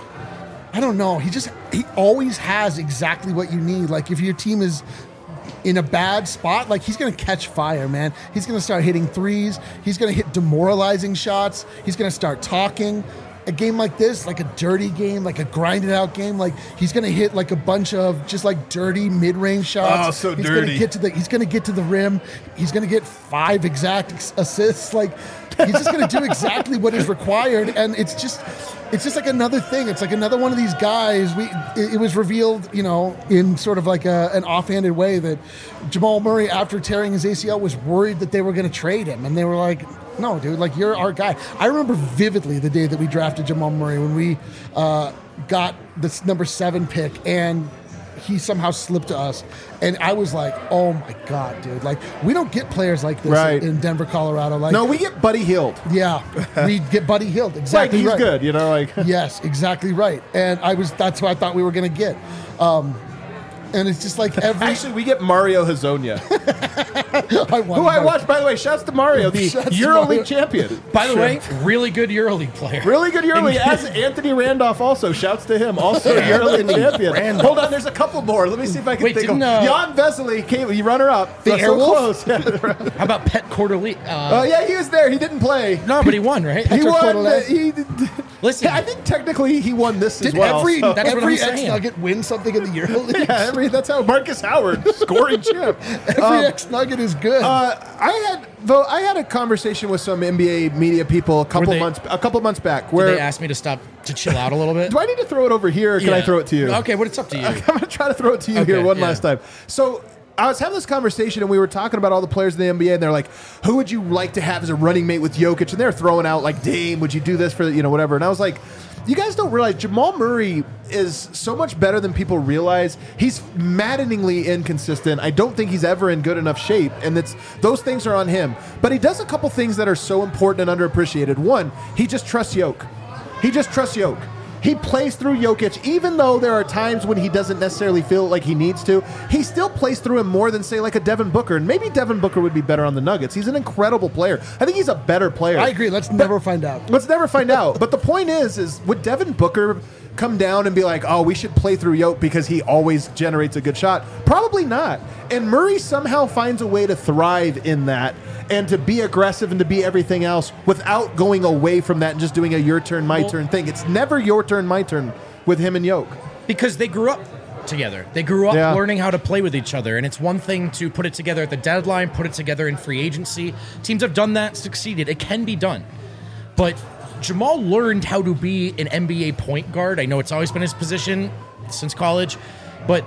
I don't know. He just he always has exactly what you need. Like if your team is in a bad spot, like he's going to catch fire, man. He's going to start hitting threes. He's going to hit demoralizing shots. He's going to start talking. A game like this, like a dirty game, like a grinded out game, like he's going to hit like a bunch of just like dirty mid-range shots. Oh, so he's Gonna dirty. get to the, he's going to get to the rim. He's going to get five exact ex- assists. Like he's just going to do exactly what is required, and it's just it's just like another thing. It's like another one of these guys. We it, it was revealed, you know, in sort of like a, an offhanded way that Jamal Murray, after tearing his A C L, was worried that they were going to trade him, and they were like, "No, dude, like you're our guy." I remember vividly the day that we drafted Jamal Murray when we uh, got this number seven pick, and he somehow slipped to us, and I was like, "Oh my god, dude! Like we don't get players like this Right. in, in Denver, Colorado." Like, no, we get Buddy Hield. yeah, we get Buddy Hield. Like Exactly he's right. good, you know. Like Yes, exactly right. And I was that's what I thought we were going to get. Um, and it's just like every actually, we get Mario Hazonia, I who I watched. By the way, shouts to Mario, the Shouts to EuroLeague Mario. champion. By the way, really good EuroLeague player. Really good EuroLeague, as Anthony Randolph also. Shouts to him, also EuroLeague champion. Randolph. Hold on, there's a couple more. Let me see if I can Wait, think of didn't, uh, Jan Vesely came, you runner up. The That's so Airwolf? close. Yeah. How about Pet Quarterly? Uh, Oh yeah, he was there. He didn't play. no, but he won, right? He Hector won. Cordelez? He, Listen, I think technically he won this Did as well. every so- That's what every I'm saying. ex Nugget win something in the EuroLeague? yeah, every, that's how Marcus Howard scoring champ. Every Um, ex Nugget is good. Uh, I had though I had a conversation with some N B A media people a couple they- months a couple months back did where they asked me to stop to chill out a little bit. do I need to throw it over here or can I Yeah. throw it to you? Okay, well, it's up to you. I'm gonna try to throw it to you Okay, here one yeah. last time. So I was having this conversation and we were talking about all the players in the N B A and they're like, who would you like to have as a running mate with Jokic? And they're throwing out like Dame, would you do this for you know whatever? And I was like, you guys don't realize Jamal Murray is so much better than people realize. He's maddeningly inconsistent. I don't think he's ever in good enough shape, and it's those things are on him. But he does a couple things that are so important and underappreciated. One, he just trusts Jokic. He just trusts Jokic. He plays through Jokic, even though there are times when he doesn't necessarily feel like he needs to. He still plays through him more than, say, like a Devin Booker. And maybe Devin Booker would be better on the Nuggets. He's an incredible player. I think he's a better player. I agree. Let's never find out. Let's never find out. But the point is, is would Devin Booker come down and be like, oh, we should play through Yoke because he always generates a good shot? Probably not. And Murray somehow finds a way to thrive in that and to be aggressive and to be everything else without going away from that and just doing a your turn, my Well- turn thing. It's never your turn, my turn with him and Yoke. Because they grew up together. They grew up Yeah. learning how to play with each other. And it's one thing to put it together at the deadline, put it together in free agency. Teams have done that, succeeded. It can be done. But Jamal learned how to be an N B A point guard. I know it's always been his position since college, but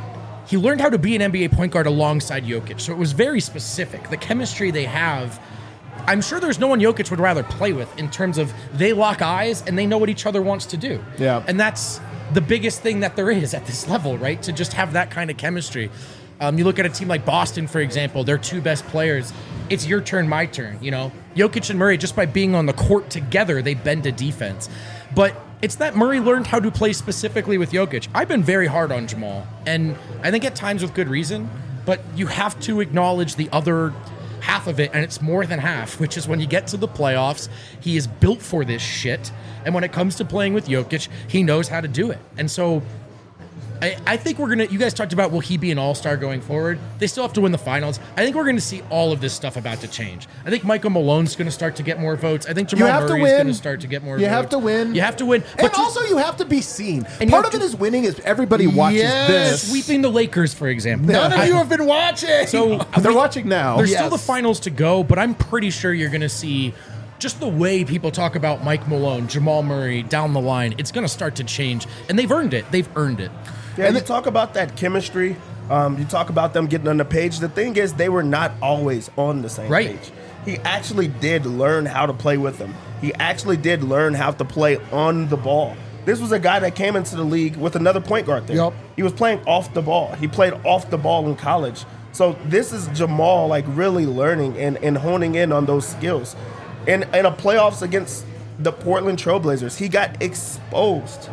he learned how to be an N B A point guard alongside Jokic. So it was very specific. The chemistry they have, I'm sure there's no one Jokic would rather play with in terms of they lock eyes and they know what each other wants to do. Yeah. And that's the biggest thing that there is at this level, right? To just have that kind of chemistry. Um, you look at a team like Boston, for example, their two best players, it's your turn, my turn, you know? Jokic and Murray, just by being on the court together, they bend to defense. But it's that Murray learned how to play specifically with Jokic. I've been very hard on Jamal, and I think at times with good reason, but you have to acknowledge the other half of it, and it's more than half, which is when you get to the playoffs, he is built for this shit. And when it comes to playing with Jokic, he knows how to do it. And so I, I think we're going to, you guys talked about, will he be an all-star going forward? They still have to win the finals. I think we're going to see all of this stuff about to change. I think Michael Malone's going to start to get more votes. I think Jamal Murray's going to start to get more you votes. have to win. You have to win. And to, also you have to be seen. And Part of to, it is winning is everybody watches Yes. this. Sweeping the Lakers, for example. None of I- you have been watching. So They're watching now. There's Yes. still the finals to go, but I'm pretty sure you're going to see just the way people talk about Mike Malone, Jamal Murray down the line. It's going to start to change, and they've earned it. They've earned it. Yeah, and you talk about that chemistry. Um, you talk about them getting on the page. The thing is, they were not always on the same Right. page. He actually did learn how to play with them. He actually did learn how to play on the ball. This was a guy that came into the league with another point guard there. Yep. He was playing off the ball. He played off the ball in college. So this is Jamal like really learning and, and honing in on those skills. In, in a playoffs against the Portland Trailblazers, he got exposed.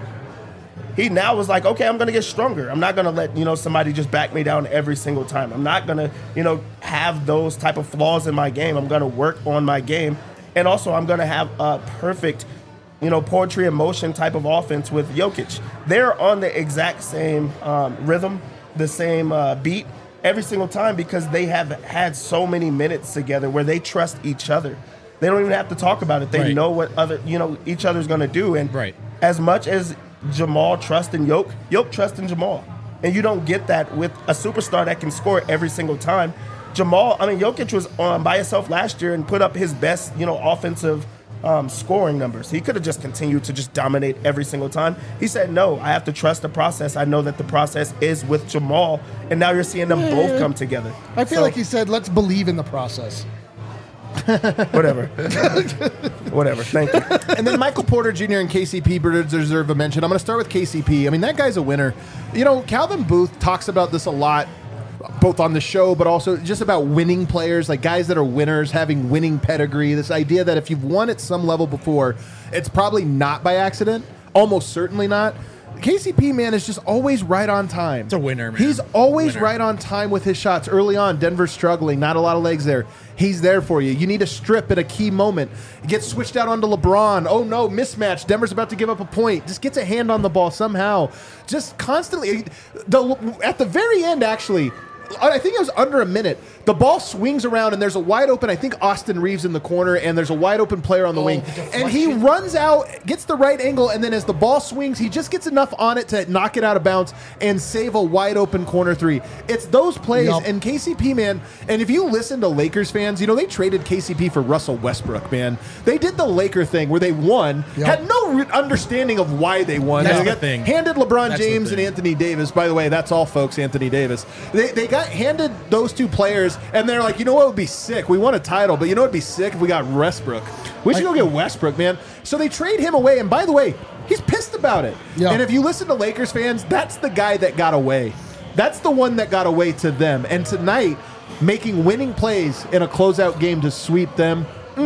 He now was like, okay, I'm going to get stronger. I'm not going to let, you know, somebody just back me down every single time. I'm not going to, you know, have those type of flaws in my game. I'm going to work on my game. And also I'm going to have a perfect, you know, poetry and motion type of offense with Jokic. They're on the exact same um, rhythm, the same uh, beat every single time because they have had so many minutes together where they trust each other. They don't even have to talk about it. They Right. know what other, you know, each other's going to do. And Right. as much as Jamal trusts in Yoke, Yoke trusts in Jamal. And you don't get that with a superstar that can score every single time. Jamal, I mean, Jokic was on by himself last year and put up his best, you know, offensive um, scoring numbers. He could have just continued to just dominate every single time. He said, no, I have to trust the process. I know that the process is with Jamal. And now you're seeing them both come together. I feel So, like he said, let's believe in the process. whatever. Whatever. Thank you. And then Michael Porter Junior and K C P deserve a mention. I'm going to start with K C P. I mean, that guy's a winner. You know, Calvin Booth talks about this a lot, both on the show, but also just about winning players, like guys that are winners, having winning pedigree. This idea that if you've won at some level before, it's probably not by accident, almost certainly not. K C P, man, is just always right on time. It's a winner, man. He's always Winner. right on time with his shots. Early on, Denver's struggling, not a lot of legs there. He's there for you. You need a strip at a key moment. Gets switched out onto LeBron. Oh, no, mismatch. Denver's about to give up a point. Just gets a hand on the ball somehow. Just constantly. The, at the very end, actually, I think it was under a minute. The ball swings around, and there's a wide open, I think, Austin Reeves in the corner, and there's a wide open player on the Oh, wing. the And he deflection. runs out, gets the right angle, and then as the ball swings, he just gets enough on it to knock it out of bounds and save a wide open corner three. It's those plays, Yup. and K C P, man, and if you listen to Lakers fans, you know, they traded K C P for Russell Westbrook, man. They did the Laker thing where they won, Yup. had no re- understanding of why they won. That's They the got thing. handed LeBron That's the James and thing. Anthony Davis. By the way, that's all, folks, Anthony Davis. They, they got handed those two players, and they're like, you know what would be sick? We won a title, but you know what would be sick if we got Westbrook? We should go get Westbrook, man. So they trade him away, and by the way, he's pissed about it. Yeah. And if you listen to Lakers fans, that's the guy that got away. That's the one that got away to them. And tonight, making winning plays in a closeout game to sweep them.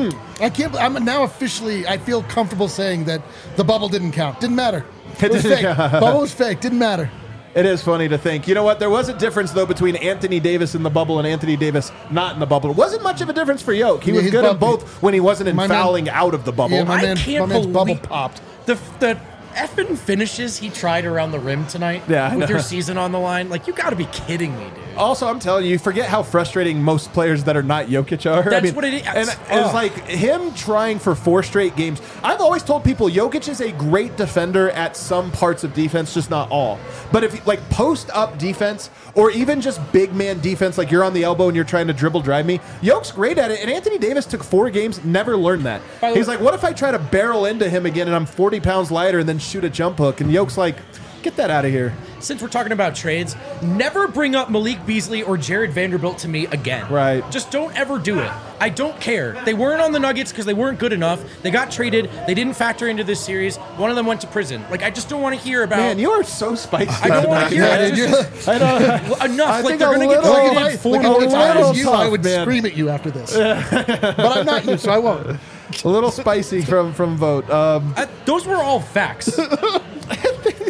I can't. I'm now officially. I feel comfortable saying that the bubble didn't count. Didn't matter. It was fake. Bubble was fake. Didn't matter. It is funny to think. You know what? There was a difference, though, between Anthony Davis in the bubble and Anthony Davis not in the bubble. It wasn't much of a difference for Yoke. He Yeah, was he's good in bumpy. both when he wasn't in My man- fouling out of the bubble. Yeah, my I man- can't my man's bubble believe popped. The the effing finishes he tried around the rim tonight Yeah, I with know. your season on the line. Like, you got to be kidding me, dude. Also, I'm telling you, you forget how frustrating most players that are not Jokic are. I That's mean, what it is. And it's Ugh. like him trying for four straight games. I've always told people Jokic is a great defender at some parts of defense, just not all. But if like post up defense or even just big man defense, like you're on the elbow and you're trying to dribble drive me, Yoke's great at it. And Anthony Davis took four games, never learned that. By the He's way- like, what if I try to barrel into him again and I'm forty pounds lighter and then shoot a jump hook? And Yoke's like, get that out of here. Since we're talking about trades, never bring up Malik Beasley or Jared Vanderbilt to me again. Right. Just don't ever do it. I don't care. They weren't on the Nuggets because they weren't good enough. They got traded. They didn't factor into this series. One of them went to prison. Like, I just don't want to hear about. Man, you are so spicy. I don't want to hear Yeah, it. dude, Just- I know. Well, enough. I like, think they're a going to get little- targeted like- four Like, more if I times. was you, tough, I would man. scream at you after this. But I'm not you, so I won't. A little spicy from from Vote. Um, Uh, those were all facts.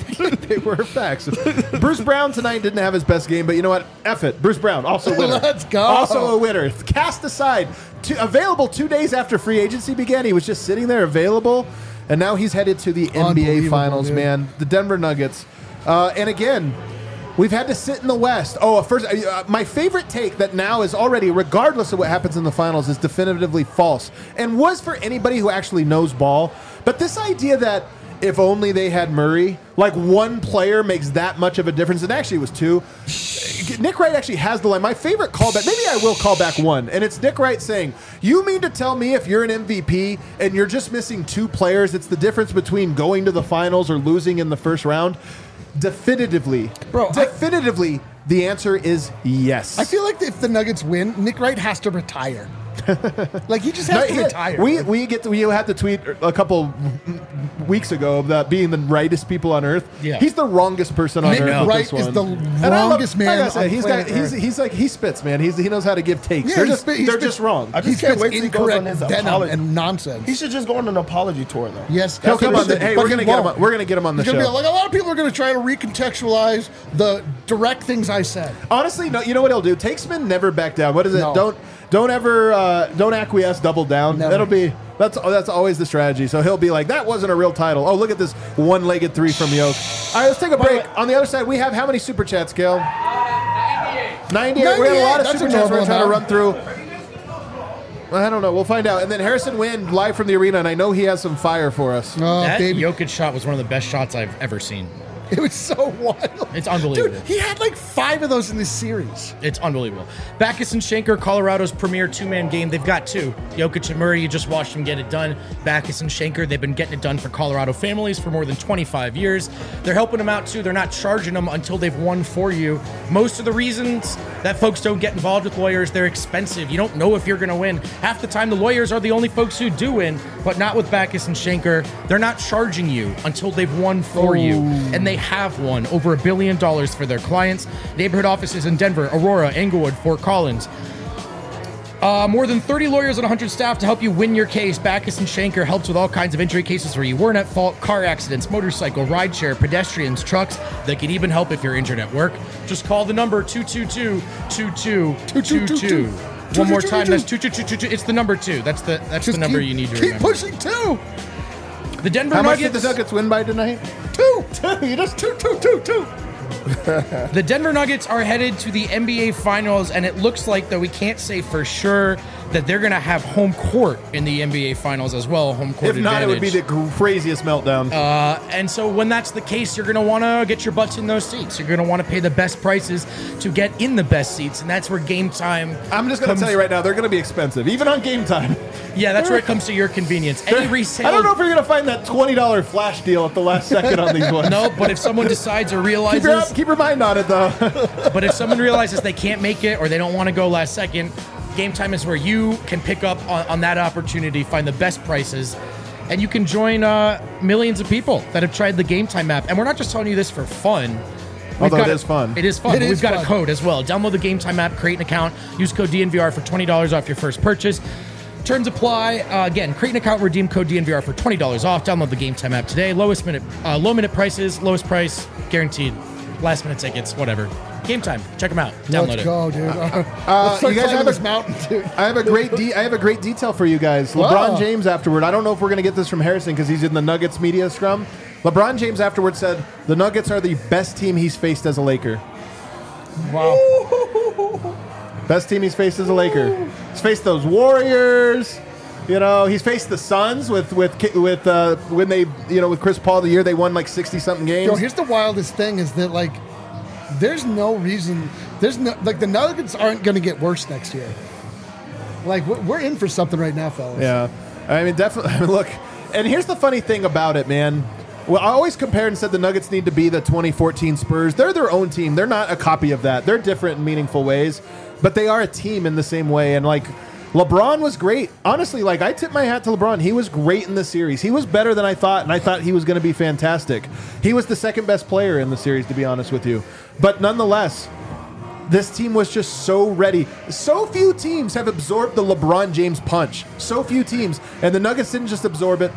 They were facts. Bruce Brown tonight didn't have his best game, but you know what? F it. Bruce Brown, also a winner. Let's go. Also a winner. Cast aside. Two, available two days after free agency began. He was just sitting there available, and now he's headed to the N B A Finals, dude. man. The Denver Nuggets. Uh, and again, we've had to sit in the West. Oh, first, uh, my favorite take that now is already, regardless of what happens in the finals, is definitively false. And was for anybody who actually knows ball. But this idea that if only they had Murray, like one player makes that much of a difference, and actually it was two. Nick Wright actually has the line. My favorite callback, maybe I will call back one, and it's Nick Wright saying, you mean to tell me if you're an M V P and you're just missing two players, it's the difference between going to the finals or losing in the first round? Definitively, Bro, definitively, I, the answer is yes. I feel like if the Nuggets win, Nick Wright has to retire. Like he just has No, to he- retire. We we get to, we had to tweet a couple weeks ago about being the rightest people on earth. Yeah. He's the wrongest person on Nick earth. with Wright this one. is the And I love- wrongest man Like I said, on he's got planet he's Earth. he's like he spits, man. He's he knows how to give takes. Yeah, they're he just spit- he they're spits- just wrong. I He just can't spits wait till he goes on incorrect his venom apology. and nonsense. He should just go on an apology tour, though. Yes, He'll that's come what on. The, he should, hey, but we're he gonna get him. won't. On, we're gonna get him on the He's gonna show. be like, a lot of people are going to try to recontextualize the direct things I said. Honestly, no. You know what he'll do? Takesman never back down. What is it? No. Don't don't ever uh, don't acquiesce. Double down. Never. That'll be that's that's always the strategy. So he'll be like, that wasn't a real title. Oh, look at this one-legged three from Yoke. All right, let's take a break. On the other side, we have how many super chats, Gil? ninety-eight. We have a lot of That's super a chats we're gonna try to normal run through. I don't know. We'll find out. And then Harrison Wind live from the arena, and I know he has some fire for us. Oh, That baby. Jokic shot was one of the best shots I've ever seen. It was so wild. It's unbelievable. Dude, he had like five of those in this series. It's unbelievable. Backus and Schenker, Colorado's premier two-man game. They've got two. Jokic and Murray, you just watched them get it done. Backus and Schenker, they've been getting it done for Colorado families for more than twenty-five years. They're helping them out, too. They're not charging them until they've won for you. Most of the reasons that folks don't get involved with lawyers, they're expensive. You don't know if you're going to win. Half the time, the lawyers are the only folks who do win, but not with Backus and Schenker. They're not charging you until they've won for you, and they have won over a billion dollars for their clients. Neighborhood offices in Denver, Aurora, Englewood, Fort Collins. Uh, more than thirty lawyers and one hundred staff to help you win your case. Backus and Schenker helps with all kinds of injury cases where you weren't at fault, car accidents, motorcycle, rideshare, pedestrians, trucks. They can even help if you're injured at work. Just call the number two two two, two two two two. One more time, that's two two two two two. It's the number two. That's the that's Just the number keep- you need to keep remember. pushing two. The Denver How much did Nuggets. the Nuggets win by tonight? Two. Two. You just two, two, two, two. The Denver Nuggets are headed to the N B A Finals, and it looks like, though we can't say for sure, that they're going to have home court in the N B A Finals as well. Home court If not, it would be advantage. the craziest meltdown. Uh, and so when that's the case, you're going to want to get your butts in those seats. You're going to want to pay the best prices to get in the best seats, and that's where game time. I'm just going to comes- tell you right now, they're going to be expensive, even on game time. Yeah, that's where it comes to your convenience. Any resale. I don't know if you're going to find that twenty dollar flash deal at the last second on these ones. No, but if someone decides or Keep realizes, your, keep your mind on it, though. but if someone realizes they can't make it or they don't want to go last second, game time is where you can pick up on, on that opportunity, find the best prices, and you can join uh, millions of people that have tried the Game Time app. And we're not just telling you this for fun. We've Although got it a- is fun. It is fun. It but is We've got fun. a code as well. Download the Game Time app, create an account, use code D N V R for twenty dollars off your first purchase. Terms apply. Uh, again, create an account, redeem code D N V R for twenty dollars off. Download the Game Time app today. Lowest minute, uh, low minute prices, lowest price, guaranteed. Last minute tickets, whatever. Game Time. Check them out. Download Let's it. go, dude. Uh, Let's start you guys climbing have this a- mountain, dude. I have a great de- I have a great detail for you guys. LeBron Whoa. James afterward. I don't know if we're going to get this from Harrison because he's in the Nuggets media scrum. LeBron James afterward said the Nuggets are the best team he's faced as a Laker. Wow. Best team he's faced as a Laker. He's faced those Warriors. You know, he's faced the Suns with with Ki- with uh, when they you know with Chris Paul the year they won like sixty something games. Yo, here's the wildest thing is that like, there's no reason. There's no like the Nuggets aren't going to get worse next year. Like we're, we're in for something right now, fellas. Yeah, I mean, definitely. I mean, look, and here's the funny thing about it, man. Well, I always compared and said the Nuggets need to be the twenty fourteen Spurs. They're their own team. They're not a copy of that. They're different in meaningful ways, but they are a team in the same way. And like, LeBron was great. Honestly, like I tip my hat to LeBron. He was great in the series. He was better than I thought, and I thought he was going to be fantastic. He was the second best player in the series, to be honest with you. But nonetheless, this team was just so ready. So few teams have absorbed the LeBron James punch. So few teams. And the Nuggets didn't just absorb it.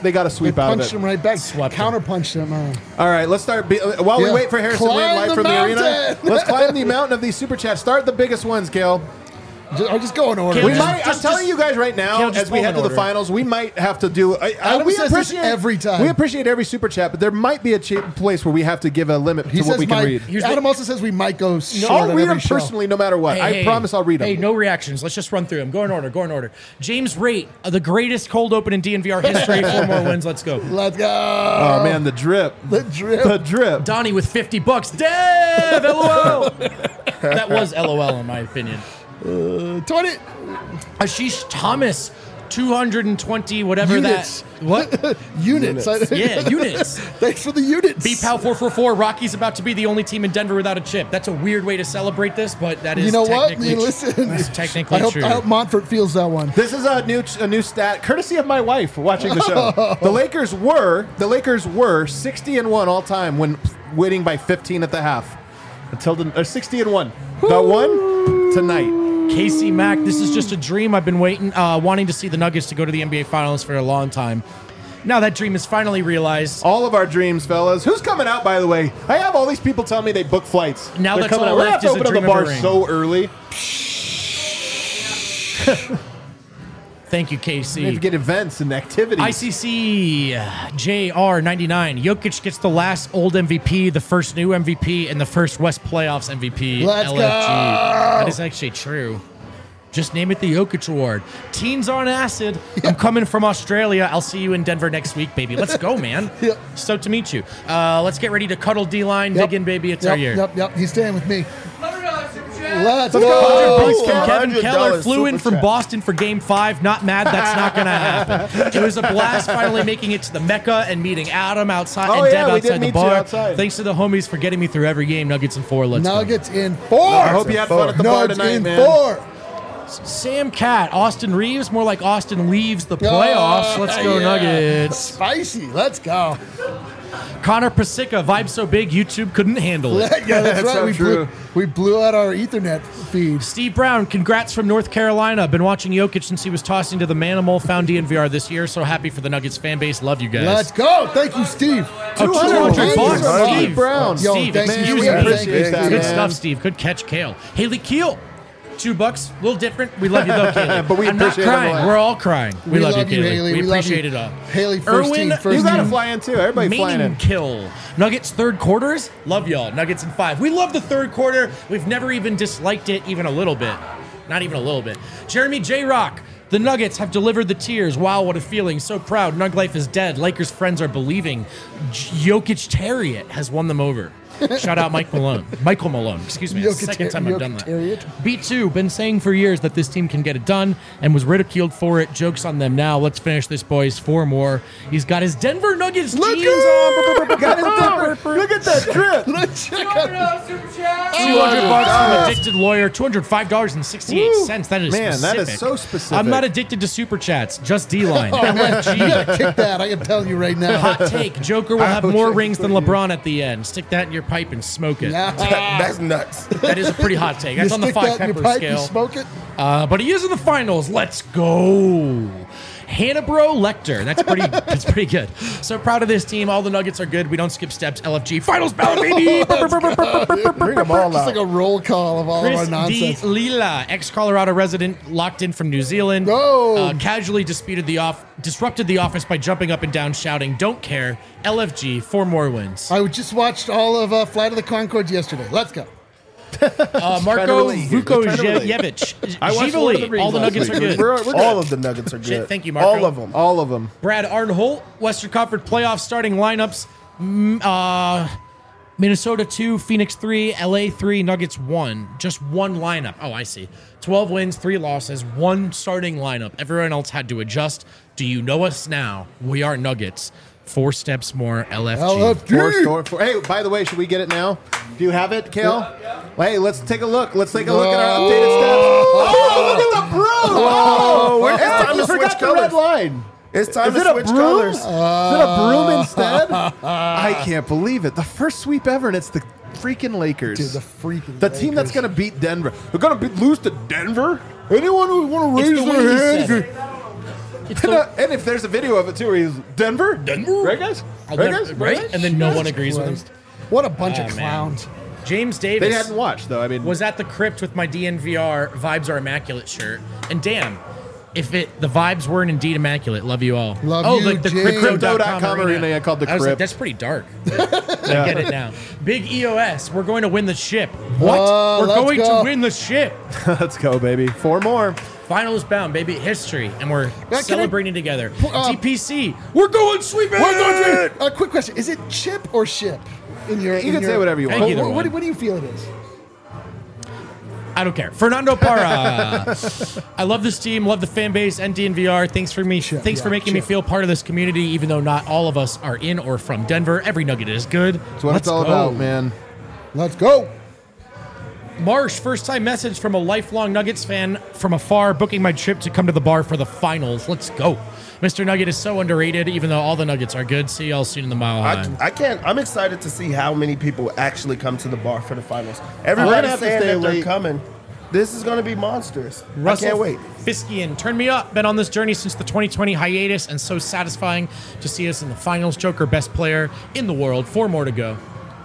they got a sweep They out of punched it. him right back. Swept him. Counter punched him. Uh, All right, let's start. Be, uh, while we Yeah. wait for Harrison Climb Wade live the from the arena, mountain. let's climb the mountain of these super chats. Start the biggest ones, Kale. just, I'll just go in order. Kale, We man. just- might. I'm telling you guys right now, Kale, just as we pull head in to the order. finals, we might have to do. I, I, Adam we says this appreciate every time. We appreciate every super chat, but there might be a cha- place where we have to give a limit He to what says we can might, read. Here's the- Adam also says we might go short I'll on read every them show. personally, no matter what. Hey, I hey, promise I'll read them. Hey, no reactions. Let's just run through them. Go in order. Go in order. James Rate, uh, the greatest cold open in D N V R history. Four more wins. Let's go. Let's go. Oh man, the drip, The drip. the drip. Donnie with fifty bucks. Dev, LOL. That was LOL in my opinion. twenty. Ashish Thomas, two hundred twenty, whatever Units. that. What? Units. Yeah, units. Thanks for the units. B Pal four four four, Rocky's about to be the only team in Denver without a chip. That's a weird way to celebrate this, but that is You know what? technically, You listen. that's technically I hope, true. I hope Montfort feels that one. This is a new a new stat, courtesy of my wife watching the show. The Lakers were the Lakers were sixty and one all time when winning by fifteen at the half. Until the uh, sixty and one. The one tonight. Casey Mack, this is just a dream. I've been waiting, uh, wanting to see the Nuggets to go to the N B A Finals for a long time. Now that dream is finally realized. All of our dreams, fellas. Who's coming out, by the way? I have all these people telling me they book flights. Now They're that's coming all out. We're gonna left have to is a open up the dream of a bar ring. so early. Thank you, We have Casey. to get events and activities. I C C J R ninety-nine. Jokic gets the last old M V P, the first new M V P, and the first West Playoffs M V P. Let's L F G. go. That is actually true. Just name it the Jokic Award. Teens on acid. I'm coming from Australia. I'll see you in Denver next week, baby. Let's go, man. Yep. Stoked to meet you. Uh, let's get ready to cuddle D-line. Yep. Dig in, baby. It's yep, our year. Yep, yep. He's staying with me. Let's go. go. Bucks from Oh, Kevin one hundred Keller dollars flew in super from chat. Boston for game five. Not mad. That's not going to happen. It was a blast finally making it to the Mecca and meeting Adam outside Oh, and yeah, Dev we did outside the meet you bar. outside. Thanks to the homies for getting me through every game. Nuggets in four. Let's go. Nuggets in four. I hope you had fun at the bar Nuggets tonight, in man. four. Sam Cat, Austin Reeves, more like Austin leaves the playoffs. Let's go, Oh, yeah. Nuggets. Spicy. Let's go. Connor Pasica, vibe so big, YouTube couldn't handle it. Yeah, that's, That's right. so we, true. blew, we blew out our Ethernet feed. Steve Brown, congrats from North Carolina. Been watching Jokic since he was tossing to the Manimal. Found D N V R this year. So happy for the Nuggets fan base. Love you guys. Let's go. Thank you, Steve. Oh, two hundred two hundred bucks, bucks, Steve. Steve Brown. Yo, Steve, thank excuse you. me. We appreciate appreciate that, Good man. stuff, Steve. Good catch, Kale. Haley Keel, two bucks. A little different. We love you though, Kaylee. But we I'm not appreciate it a crying. lot. We're all crying. We, love, you, Kaylee. Haley. We, love appreciate you. it all. Haley, first Erwin, team, first You got to team. fly in too. Everybody flying in. Kill. Nuggets third quarters. Love y'all. Nuggets in five. We love the third quarter. We've never even disliked it even a little bit. Not even a little bit. Jeremy J. Rock. The Nuggets have delivered the tears. Wow, what a feeling. So proud. Nug life is dead. Lakers friends are believing. J- Jokic Terriot has won them over. Shout out Mike Malone. Michael Malone. Excuse me. It's the Jokic- second time I've done that. Jokic B two, been saying for years that this team can get it done and was ridiculed for it. Joke's on them now. Let's finish this, boys. Four more. He's got his Denver Nuggets Look jeans at- on. Got his Denver- Look at that drip. Let's check out. two hundred bucks from Addicted Lawyer, two hundred five dollars and sixty-eight cents. That is Man, that specific. is so specific. I'm not addicted to super chats, just D-line. Oh, man, L F G. you gotta kick that. I can tell you right now. Hot take. Joker will have more rings than LeBron at the end. Stick that in your pipe and smoke it. Nah. That's nuts. That is a pretty hot take. You That's on the stick five that in pepper your pipe, you scale. smoke it. Uh, but he is in the finals. Let's go. Hannibro Lecter. That's pretty that's pretty good. So proud of this team. All the Nuggets are good. We don't skip steps. L F G finals ballot, baby. Bring them all It's out. like a roll call of all Chris of our D. nonsense. Lila, ex-Colorado resident, locked in from New Zealand. Oh. Uh, casually disputed the off, disrupted the office by jumping up and down, shouting, "Don't care." L F G, four more wins. I just watched all of uh, Flight of the Conchords yesterday. Let's go. Uh, to Marco relate here. Just trying to relate. Vukovic, I watched Lord of the Givoli, Rings all the last Nuggets week. are good. We're, we're good. All of the Nuggets are good. Shit, thank you, Marco. All of them. All of them. Brad Arnholt, Western Conference playoff starting lineups. Mm, uh, Minnesota two, Phoenix three, L A three, Nuggets one. Just one lineup. Oh, I see. twelve wins, three losses, one starting lineup. Everyone else had to adjust. Do you know us now? We are Nuggets. Four steps more, L F G. L F G. Four store, four. Hey, by the way, should we get it now? Do you have it, Kale? Hey, let's take a look. Let's take a look at our updated stats. Oh, look at the broom! Oh, Where's hey, time you to switch forgot the red colors? line. It's time Is to it a switch broom? colors. Is it a broom instead? I can't believe it. The first sweep ever, and it's the freaking Lakers. Dude, the freaking The team that's Lakers. going to beat Denver. They're going to lose to Denver? Anyone who want to It's raise the way their he hand? said can- It's And, the, uh, and if there's a video of it too, where he's Denver, Denver? right, guys? I'll Right, never- guys? right? And then no one Jesus agrees with him. Christ. What a bunch Oh, of man. clowns. James They Davis hadn't watched though. I mean, was at the crypt with my D N V R Vibes Are Immaculate shirt. And damn, if it the vibes weren't indeed immaculate, love you all. Love oh, you, like the James. crypto dot Crypto.com com arena, I called the I was like, crypt. that's pretty dark. I get it now. Big E O S, we're going to win the ship. What? Oh, we're let's going go. to win the ship. let's go, baby. Four more. Finals bound, baby. History. And we're can I- celebrating together. uh, T P C. We're going sweeping. We're going to. A quick question: is it chip or ship? In your, You in can your, say whatever you Thank want. you. What, Either what, one. what do you feel it is? I don't care. Fernando Parra. I love this team, love the fan base, and D N V R. Thanks for me. Sure, thanks for yeah, making me sure. feel part of this community, even though not all of us are in or from Denver. Every Nugget is good. That's what Let's it's all go. about, man. Let's go. Marsh, first time message from a lifelong Nuggets fan from afar, booking my trip to come to the bar for the finals. Let's go. Mister Nugget is so underrated, even though all the Nuggets are good. See y'all soon in the Mile High. I, I can't. I'm excited to see how many people actually come to the bar for the finals. We're Everybody's gonna have to saying stay that they're late. coming. This is going to be monsters. Russell I can't wait. Fiskian, turn me up. Been on this journey since the twenty twenty hiatus, and so satisfying to see us in the finals. Joker, best player in the world. Four more to go.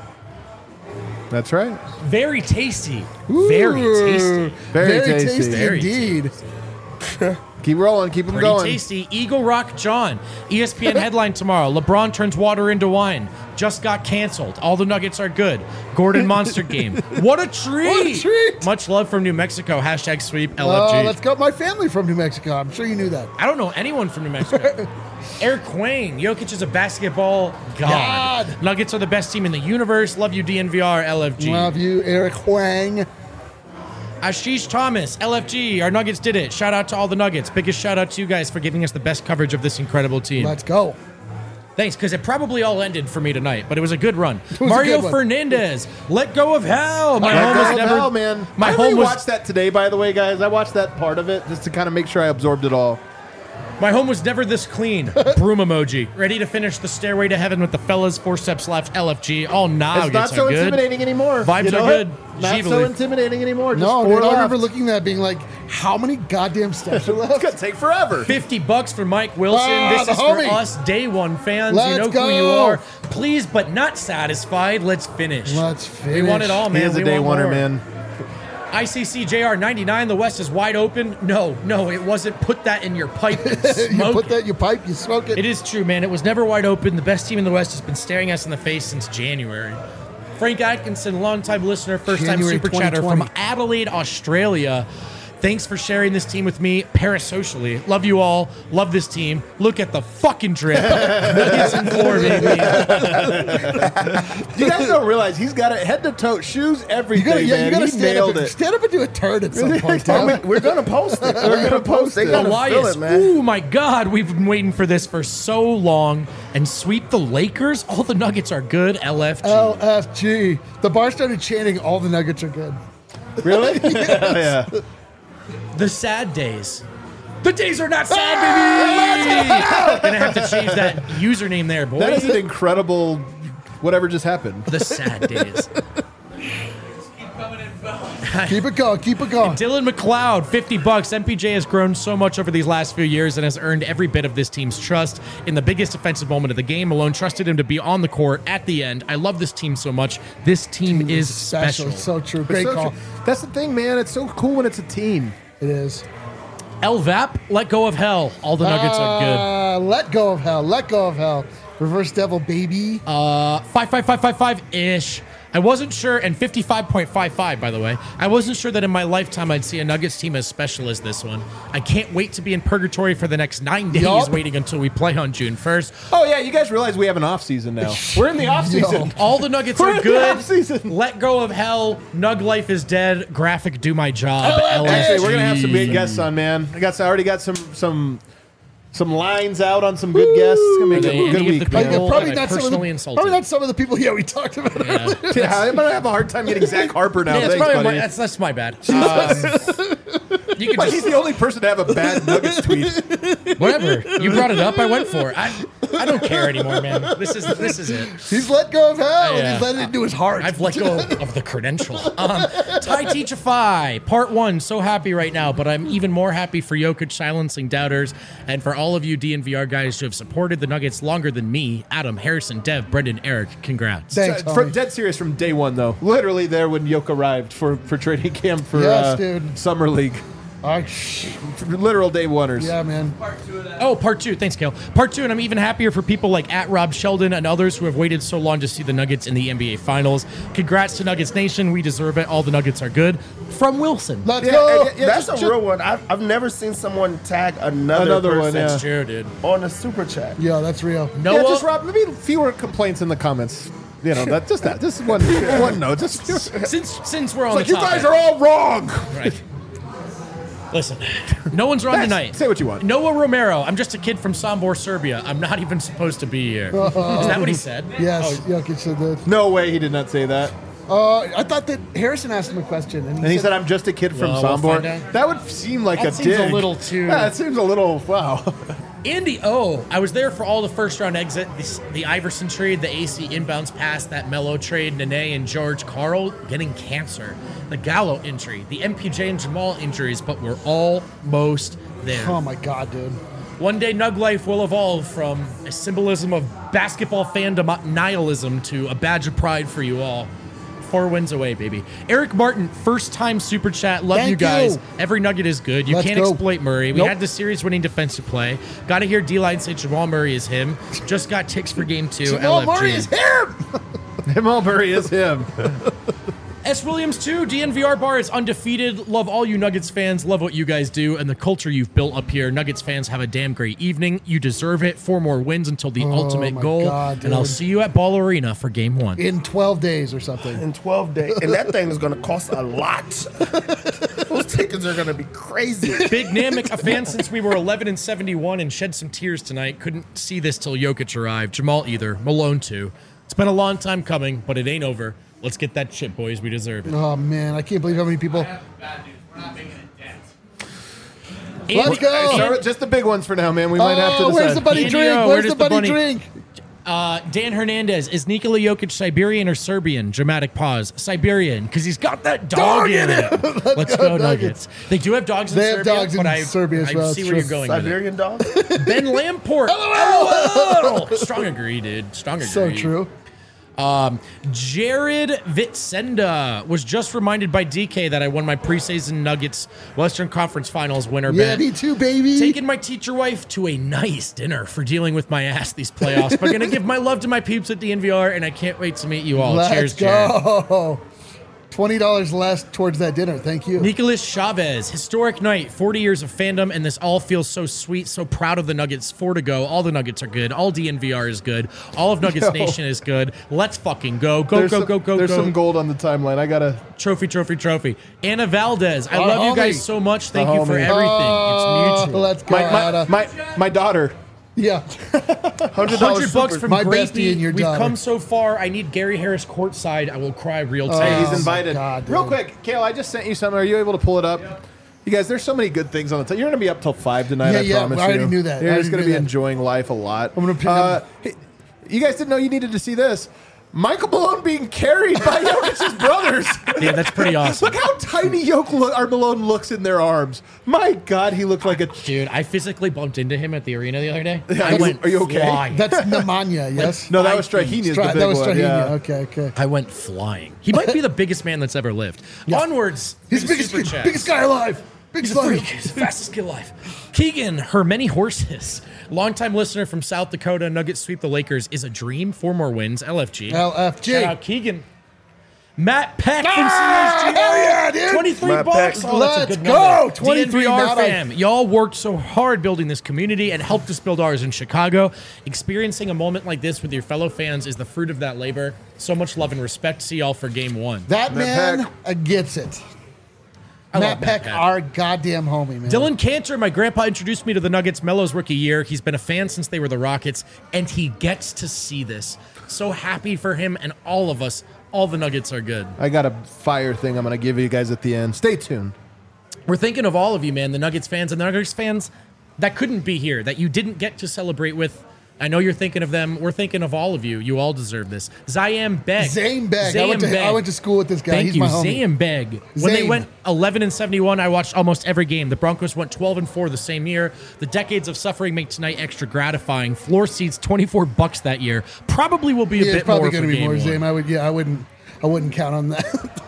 That's right. Very tasty. Very tasty. Very, Very tasty. tasty, Very indeed. Keep rolling. Keep them Pretty going. tasty. Eagle Rock John. E S P N headline tomorrow. LeBron turns water into wine. Just got canceled. All the Nuggets are good. Gordon Monster game. What a treat. What a treat. Much love from New Mexico. Hashtag sweep L F G. Uh, let's go. My family from New Mexico. I'm sure you knew that. I don't know anyone from New Mexico. Eric Quang. Jokic is a basketball god. God. Nuggets are the best team in the universe. Love you, D N V R, L F G. Love you, Eric Huang. Ashish Thomas, L F G. Our Nuggets did it. Shout out to all the Nuggets. Biggest shout out to you guys for giving us the best coverage of this incredible team. Let's go. Thanks, because it probably all ended for me tonight, but it was a good run. was a Mario good one. Fernandez, let go of hell. My Let home go was of never. hell, man. My I home was. watched that today, by the way, guys. I watched that part of it just to kind of make sure I absorbed it all. My home was never this clean. Broom emoji. Ready to finish the stairway to heaven with the fellas. Four steps left. L F G. All now It's not so are good. intimidating anymore. Vibes You know are it? good. Not Gively. so intimidating anymore. Just No, four dude, I left. remember looking at that being like, how many goddamn steps are left? It's gonna take forever. fifty bucks for Mike Wilson. Ah, this the is homie. for us day one fans. Let's you know go. who you are. Please, but not satisfied. Let's finish. Let's We want it finish. all, man. He is a We day want oneer, more. man. I C C J R ninety-nine. The West is wide open. No, no, it wasn't. Put that in your pipe and you smoke put it. that in your pipe, you smoke it. It is true, man. It was never wide open. The best team in the West has been staring us in the face since January. Frank Atkinson, longtime listener, first time January super chatter from twenty twenty. Adelaide, Australia. Thanks for sharing this team with me parasocially. Love you all. Love this team. Look at the fucking drip. Nuggets and four, baby. You guys don't realize he's got it head to toe, shoes, You everything, gotta, yeah, man. you gotta he stand nailed up, and, it. stand up and do a turd at some point. Tell Tom. me- We're gonna post it. We're gonna post it. They gotta Elias. feel it, man. Oh my God, we've been waiting for this for so long. And sweep the Lakers. All the Nuggets are good. L F G. L F G. The bar started chanting, all the Nuggets are good. Really? yeah. The sad days. The days are not sad, baby. Gonna have to change that username there, boy. That is an incredible whatever just happened. The sad days. Keep it going, keep it going. Dylan McLeod, fifty bucks. M P J has grown so much over these last few years and has earned every bit of this team's trust. In the biggest offensive moment of the game, Malone trusted him to be on the court at the end. I love this team so much. This team is special. So true. It's Great so call. true. That's the thing, man. It's so cool when it's a team. It is. L V A P, let go of hell. All the Nuggets are good. Uh, let go of hell. Let go of hell. Reverse devil, baby. Uh, five five five five five ish. I wasn't sure, and fifty-five point five five, by the way. I wasn't sure that in my lifetime I'd see a Nuggets team as special as this one. I can't wait to be in purgatory for the next nine days, Yup. waiting until we play on June first. Oh yeah, you guys realize we have an off season now. We're in the off season. All the Nuggets We're are in the good. offseason. Let go of hell. Nug life is dead. Graphic, do my job. L F G. Actually, we're gonna have some big guests on, man. I got I already got some some some lines out on some good guests. It's gonna Are make they a good any of week. the man. people- Yeah, probably am I not some of personally the insulted? probably not some of the people. Yeah, we talked about it. Yeah. Yeah, I'm gonna have a hard time getting Zach Harper now. Yeah, that's, Thanks, probably my, buddy. that's, that's my bad. Um, you can But just he's the only person to have a bad Nuggets tweet. whatever. You brought it up. I went for it. I, I don't care anymore, man. This is this is it. He's let go of hell. Yeah. And he's letting it into his heart. I've let go of the credential. Um, Tai Teachify, part one. So happy right now, but I'm even more happy for Jokic silencing doubters and for all of you D N V R guys who have supported the Nuggets longer than me. Adam, Harrison, Dev, Brendan, Eric. Congrats. Thanks, Uh, from, homie. dead serious from day one, though. Literally there when Yoke arrived for, for training camp for Yes, uh, dude. Summer League. I, shh. Literal day oneers. Yeah, man. Oh, part two. Thanks, Kale. Part two, and I'm even happier for people like at Rob Sheldon and others who have waited so long to see the Nuggets in the N B A Finals. Congrats to Nuggets Nation. We deserve it. All the Nuggets are good. From Wilson. Let's Yeah, go. and- yeah, That's just- a just- real one. I've, I've never seen someone tag another, Another one, person yeah. That's true, dude. on a super chat. Yeah, that's real. Noah, Yeah, just Rob, maybe fewer complaints in the comments. You know, that just that. Just one, one note. Just since since we're on like the you topic, guys are all wrong. right. Listen, no one's wrong Yes, tonight. say what you want. Noah Romero. I'm just a kid from Sombor, Serbia. I'm not even supposed to be here. Is that what he said? Yes, Jokic said that. No way, he did not say that. Uh, I thought that Harrison asked him a question, and he, And he said, said, "I'm just a kid from Well, we'll Sombor." find out. That would seem like That a seems a dig. little too- Yeah, it seems a little. Wow. Andy O. I was there for all the first round exit, the, the Iverson trade, the A C inbounds pass, that Melo trade, Nene and George Karl getting cancer, the Gallo injury, the M P J and Jamal injuries, but we're almost there. "Oh my God, dude." One day, Nug Life will evolve from a symbolism of basketball fandom nihilism to a badge of pride for you all. Four wins away, baby. Eric Martin, first time super chat. Love Thank you guys. you. Every nugget is good. You Let's can't go. exploit Murray. We Nope. had the series winning defensive play. Got to hear D-Line say Jamal Murray is him. Just got ticks for game two. Jamal L F G. Murray is him. Jamal Murray is him. S. Williams two, D N V R bar is undefeated. Love all you Nuggets fans. Love what you guys do and the culture you've built up here. Nuggets fans, have a damn great evening. You deserve it. Four more wins until the ultimate my goal. God, and I'll dude. see you at Ball Arena for game one. In twelve days or something. In twelve days. And that thing is going to cost a lot. Those tickets are going to be crazy. Big Namek, a fan since we were eleven and seventy-one and shed some tears tonight. Couldn't see this till Jokic arrived. Jamal either. Malone too. It's been a long time coming, but it ain't over. Let's get that chip, boys. We deserve it. Oh man, I can't believe how many people. Bad news. We're not making a dent. Let's Andy- go. Start- just the big ones for now, man. We might have to Oh, decide. where's the buddy Andy, drink? oh, Where's where the does the buddy bunny- drink? Uh, Dan Hernandez, is Nikola Jokic Siberian or Serbian? Dramatic pause. Siberian, because he's got that dog, Dog in in it. Let's go, Nuggets. They do have dogs in They have Serbia, dogs in but I, Serbia as I well, see it's where true. you're going with Siberian dog? it. Ben Lamport. LOL. Strong agree, dude. Strong agree. So true. Um, Jared Vitsenda was just reminded by D K that I won my preseason Nuggets Western Conference Finals winner Yeah, bet. me too, baby. Taking my teacher wife to a nice dinner for dealing with my ass these playoffs. But gonna give my love to my peeps at the N V R, and I can't wait to meet you all. Let's Cheers, Jared. go. Twenty dollars less towards that dinner. Thank you. Nicolas Chavez, historic night, forty years of fandom, and this all feels so sweet, so proud of the Nuggets. Four to go. All the Nuggets are good. All D N V R is good. All of Nuggets Yo. Nation is good. Let's fucking go. Go, There's go, some, go, go, There's go. some gold on the timeline. I gotta. Trophy, trophy, trophy. Anna Valdez, I Our love you homie. guys so much. Thank The you for homie. everything. Oh, It's mutual. let's go, My my, Anna. my my daughter. Yeah. Hundred Hundred bucks from My Grapey. bestie and your We've daughter. come so far. I need Gary Harris courtside. I will cry real Oh, Hey, tears. he's my invited. God, Real dude. quick, Kale, I just sent you something. Are you able to pull it up? You guys, there's so many good things on the. T- You're going to be up till five tonight. Yeah, I yeah, promise I already you. knew that. I You're already just going to knew be that. enjoying life a lot. I'm gonna pin Uh, hey, you guys didn't know you needed to see this. Michael Malone being carried by Jokic's brothers. Yeah, that's pretty awesome. Look how tiny Yoke lo- or Malone looks in their arms. My God, he looked like a. Dude, I physically bumped into him at the arena the other day. Yeah, I are you- went are you okay? flying. That's Nemanja, yes? No, that was five feet. Strahini's the Stra- big that was one. Strahini. Yeah. Okay, okay. I went flying. He might be the biggest man that's ever lived. Onwards. He's the to biggest, Super Chats. biggest guy alive. Biggest He's a guy. freak. He's the fastest kid alive. Keegan, her many horses. Longtime listener from South Dakota. Nuggets sweep the Lakers is a dream. Four more wins. L F G. L F G. Shout out Keegan. Matt Peck from Ah, C S G. hell yeah, dude. twenty-three Matt bucks. Peck. Oh, that's a Let's good go. number. twenty-three, D N V R not a- fam. Y'all worked so hard building this community and helped us build ours in Chicago. Experiencing a moment like this with your fellow fans is the fruit of that labor. So much love and respect. See y'all for game one. That Matt man Peck. uh, gets it. I Matt love Peck, Peck. our goddamn homie, man. Dylan Cantor, my grandpa introduced me to the Nuggets Melo's rookie year. He's been a fan since they were the Rockets, and he gets to see this. So happy for him and all of us. All the Nuggets are good. I got a fire thing I'm going to give you guys at the end. Stay tuned. We're thinking of all of you, man, the Nuggets fans and the Nuggets fans that couldn't be here, that you didn't get to celebrate with I know you're thinking of them. We're thinking of all of you. You all deserve this. Zayam Beg. Zayam Beg. I went, to, Beg. I went to school with this guy. Thank He's you, my homie. Zayam Beg. When they Zayam. went eleven and seventy-one, I watched almost every game. The Broncos went twelve and four the same year. The decades of suffering make tonight extra gratifying. Floor seats twenty-four bucks that year. Probably will be a Yeah, bit it's probably more going for to be game more one. Zayam. I would. Yeah, I wouldn't. I wouldn't count on that.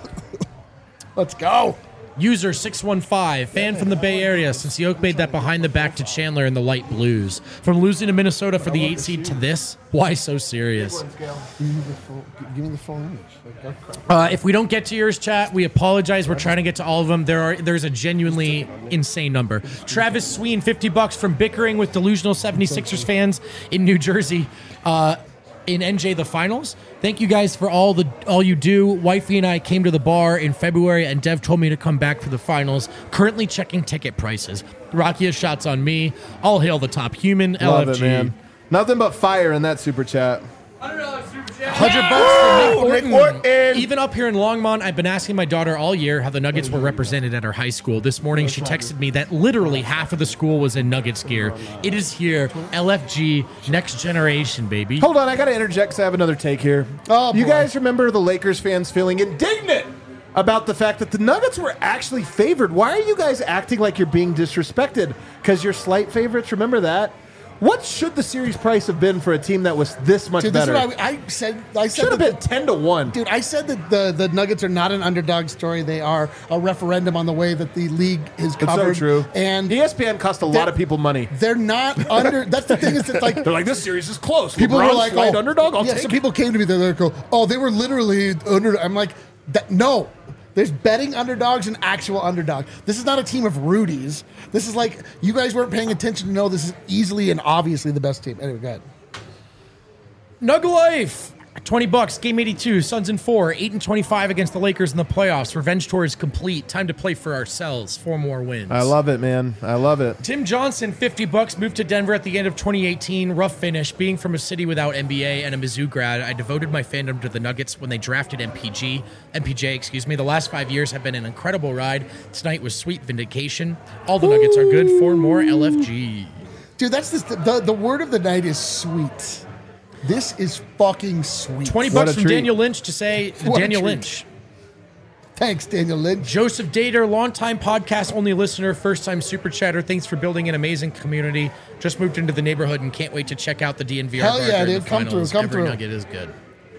Let's go. User six one five, fan from the Bay Area, since Yoke made that behind the back to Chandler in the light blues. From losing to Minnesota for the eight seed to this, why so serious? Give me the full, give me the full image. Like, Uh, if we don't get to yours, chat, we apologize. We're trying to get to all of them. There are there's a genuinely insane number. Travis Sween, fifty bucks from bickering with delusional seventy-sixers fans in New Jersey. Uh, in N J the finals. Thank you guys for all the all you do. Wifey and I came to the bar in February, and Dev told me to come back for the finals. Currently checking ticket prices. Rocky has shots on me. All hail the top human. Love L F G. it, man. Nothing but fire in that super chat. one hundred dollars super chat. Hundred bucks for Nick Nick Orton. Orton. Even up here in Longmont, I've been asking my daughter all year how the Nuggets were represented at her high school. This morning, she texted me that literally half of the school was in Nuggets gear. It is here, L F G, next generation, baby. Hold on, I got to interject because I have another take here. Oh, you boy. guys remember the Lakers fans feeling indignant about the fact that the Nuggets were actually favored? Why are you guys acting like you're being disrespected? Because you're slight favorites? Remember that? What should the series price have been for a team that was this much dude, this better? is what I, I said. I said should have that been ten to one. Dude, I said that the, the Nuggets are not an underdog story. They are a referendum on the way that the league is It's so covered. true. And E S P N cost a lot of people money. they're not under. That's the thing is that like They're like, this series is close. people LeBron's were like, slight oh, underdog. I'll yeah. take So it. people came to me. They're like, oh, they were literally under. I'm like, that, no. There's betting underdogs and actual underdog. This is not a team of Rudies. This is like you guys weren't paying attention to know this is easily and obviously the best team. Anyway, go ahead. Nug Life. twenty bucks, game eighty-two, Suns in four, eight and twenty-five against the Lakers in the playoffs. Revenge tour is complete. Time to play for ourselves. Four more wins. I love it, man. I love it. Tim Johnson, fifty bucks, moved to Denver at the end of twenty eighteen. Rough finish. Being from a city without N B A and a Mizzou grad, I devoted my fandom to the Nuggets when they drafted M P G. M P J, excuse me. The last five years have been an incredible ride. Tonight was sweet vindication. All the Nuggets are good. Four more L F G. Dude, that's this, the the word of the night is sweet. This is fucking sweet. twenty What bucks a from treat. Daniel Lynch to say What a Daniel treat. Lynch. Thanks, Daniel Lynch. Joseph Dater, longtime podcast only listener, first time super chatter. Thanks for building an amazing community. Just moved into the neighborhood and can't wait to check out the D N V R. Hell bar yeah, during dude. the Come finals. through, come Every through. nugget is good.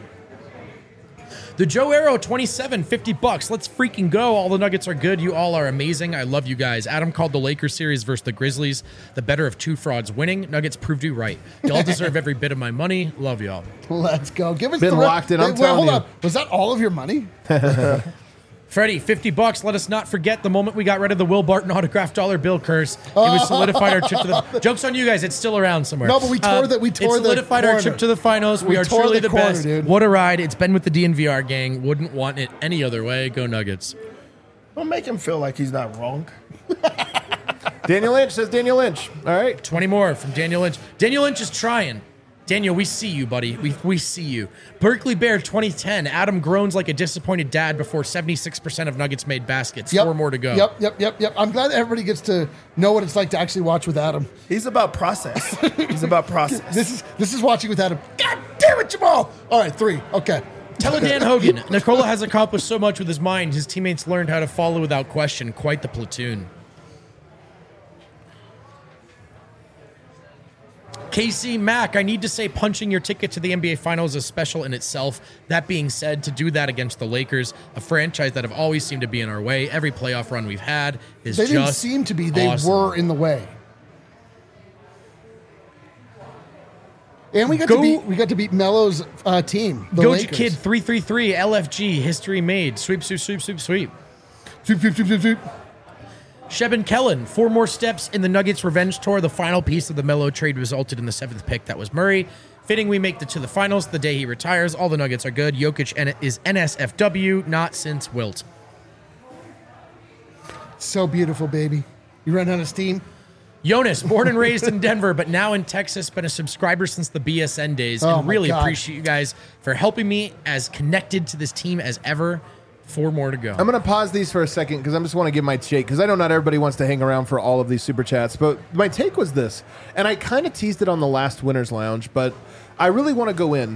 The Joe Arrow, twenty-seven, fifty bucks. Let's freaking go. All the Nuggets are good. You all are amazing. I love you guys. Adam called the Lakers series versus the Grizzlies the better of two frauds winning. Nuggets proved you right. Y'all deserve every bit of my money. Love y'all. Let's go. Give us Been the re- locked in, I'm Wait, telling hold you. on. Was that all of your money? Freddie, fifty bucks. Let us not forget the moment we got rid of the Will Barton autographed dollar bill curse. It was solidified our trip to the. Joke's on you guys. It's still around somewhere. No, but we tore the- we tore It the solidified our corner. trip to the finals. We, We are tore truly the the, corner, best. dude. What a ride! It's been with the D N V R gang. Wouldn't want it any other way. Go Nuggets. Don't make him feel like he's not wrong. Daniel Lynch says Daniel Lynch. All right. twenty more from Daniel Lynch. Daniel Lynch is trying. Daniel, we see you, buddy. We, we see you. Berkeley Bear twenty ten. Adam groans like a disappointed dad before seventy-six percent of Nuggets made baskets. Yep. Four more to go. Yep, yep, yep, yep. I'm glad everybody gets to know what it's like to actually watch with Adam. He's about process. He's about process. This is this is watching with Adam. God damn it, Jamal! All right, three. Okay. Tell Dan Hogan. Nikola has accomplished so much with his mind. His teammates learned how to follow without question. Quite the platoon. Casey Mack, I need to say punching your ticket to the N B A Finals is special in itself. That being said, to do that against the Lakers, a franchise that have always seemed to be in our way, every playoff run we've had is They just didn't seem to be. They awesome. were in the way. And we got Go- to beat we got to beat Melo's uh, team, the Goja Lakers. Kid three three three, L F G, history made. Sweep, sweep, sweep, sweep, sweep. Sweep, sweep, sweep, sweep, sweep. Sheben Kellen, four more steps in the Nuggets revenge tour. The final piece of the Melo trade resulted in the seventh pick. That was Murray. Fitting we make it to the finals the day he retires. All the Nuggets are good. Jokic N- is N S F W, not since Wilt. So beautiful, baby. You run out of steam. Jonas, born and raised in Denver, but now in Texas, been a subscriber since the B S N days. Oh and my really God. appreciate you guys for helping me as connected to this team as ever. Four more to go. I'm going to pause these for a second because I just want to give my take, because I know not everybody wants to hang around for all of these super chats, but my take was this, and I kind of teased it on the last Winner's Lounge, but I really want to go in.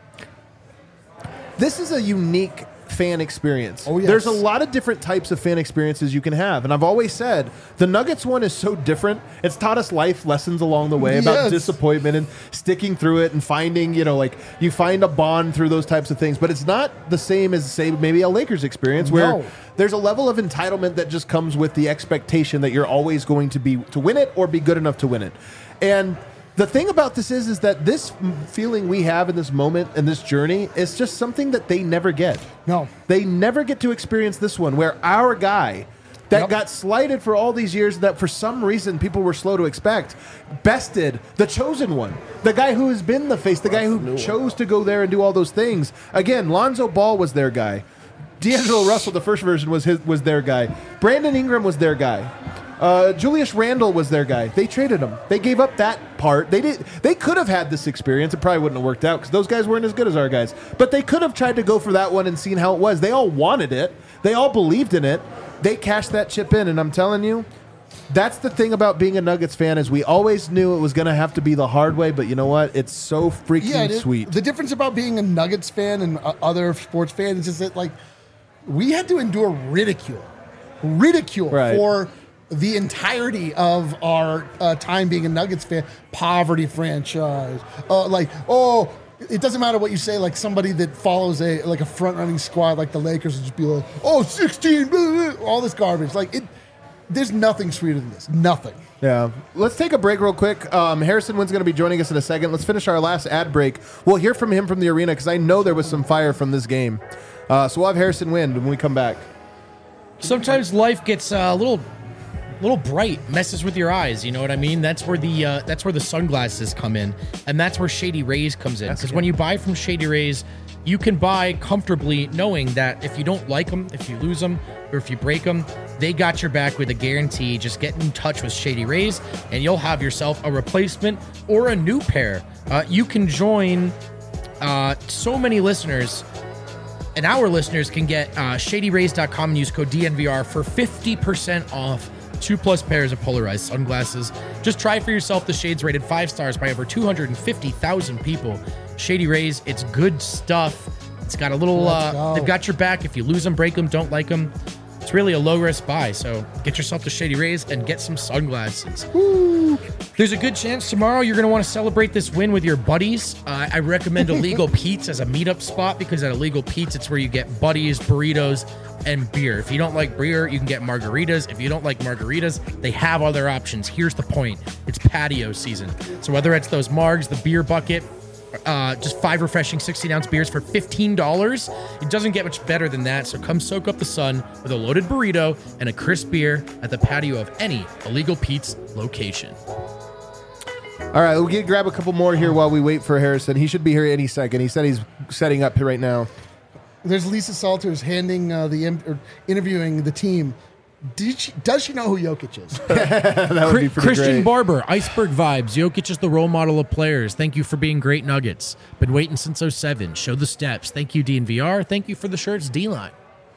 This is a unique fan experience. Oh, yes. There's a lot of different types of fan experiences you can have, and I've always said the Nuggets one is so different. It's taught us life lessons along the way about Yes. disappointment and sticking through it and finding, you know, like you find a bond through those types of things, but it's not the same as, say, maybe a Lakers experience where No. there's a level of entitlement that just comes with the expectation that you're always going to be to win it or be good enough to win it. And the thing about this is, is that this feeling we have in this moment and this journey is just something that they never get. No. They never get to experience this one where our guy that Yep. got slighted for all these years that for some reason people were slow to expect, bested the chosen one, the guy who has been the face, the guy who chose to go there and do all those things. Again, Lonzo Ball was their guy. D'Angelo Russell, the first version, was his was their guy. Brandon Ingram was their guy. Uh, Julius Randle was their guy. They traded him. They gave up that part. They did. They could have had this experience. It probably wouldn't have worked out because those guys weren't as good as our guys. But they could have tried to go for that one and seen how it was. They all wanted it. They all believed in it. They cashed that chip in, and I'm telling you, that's the thing about being a Nuggets fan is we always knew it was going to have to be the hard way. But you know what? It's so freaking Yeah, it- sweet. The difference about being a Nuggets fan and uh, other sports fans is that, like, we had to endure ridicule, ridicule Right. for the entirety of our uh, time being a Nuggets fan. Poverty franchise, uh, like, oh, it doesn't matter what you say. Like somebody that follows a like a front running squad like the Lakers would just be like, oh, sixteen, blah, blah, all this garbage. Like it, there's nothing sweeter than this. Nothing. Yeah. Let's take a break real quick. Um, Harrison Wynn's going to be joining us in a second. Let's finish our last ad break. We'll hear from him from the arena because I know there was some fire from this game. Uh, so we'll have Harrison Wynn when we come back. Sometimes life gets uh, a little, little bright, messes with your eyes. You know what I mean? That's where the uh, that's where the sunglasses come in, and that's where Shady Rays comes in. Because when you buy from Shady Rays, you can buy comfortably, knowing that if you don't like them, if you lose them, or if you break them, they got your back with a guarantee. Just get in touch with Shady Rays, and you'll have yourself a replacement or a new pair. Uh, you can join uh, so many listeners. And our listeners can get uh, shady rays dot com and use code D N V R for fifty percent off two plus pairs of polarized sunglasses. Just try for yourself the shades rated five stars by over two hundred fifty thousand people. Shady Rays, it's good stuff. It's got a little, Let's uh, go. they've got your back. If you lose them, break them, don't like them. It's really a low risk buy. So get yourself to Shady Rays and get some sunglasses. Woo. There's a good chance tomorrow you're going to want to celebrate this win with your buddies. Uh, I recommend Illegal Pete's as a meetup spot because at Illegal Pete's, it's where you get buddies, burritos, and beer. If you don't like beer, you can get margaritas. If you don't like margaritas, they have other options. Here's the point. It's patio season. So whether it's those margs, the beer bucket, uh, just five refreshing sixteen ounce beers for fifteen dollars, it doesn't get much better than that. So come soak up the sun with a loaded burrito and a crisp beer at the patio of any Illegal Pete's location. All right, we'll get, grab a couple more here while we wait for Harrison. He should be here any second. He said he's setting up right now. There's Lisa Salters handing uh, the in- or interviewing the team. Did she, does she know who Jokic is? That would Chri- be pretty Christian great. Barber, Iceberg Vibes. Jokic is the role model of players. Thank you for being great Nuggets. Been waiting since oh seven. Show the steps. Thank you, D N V R. Thank you for the shirts, D-Line.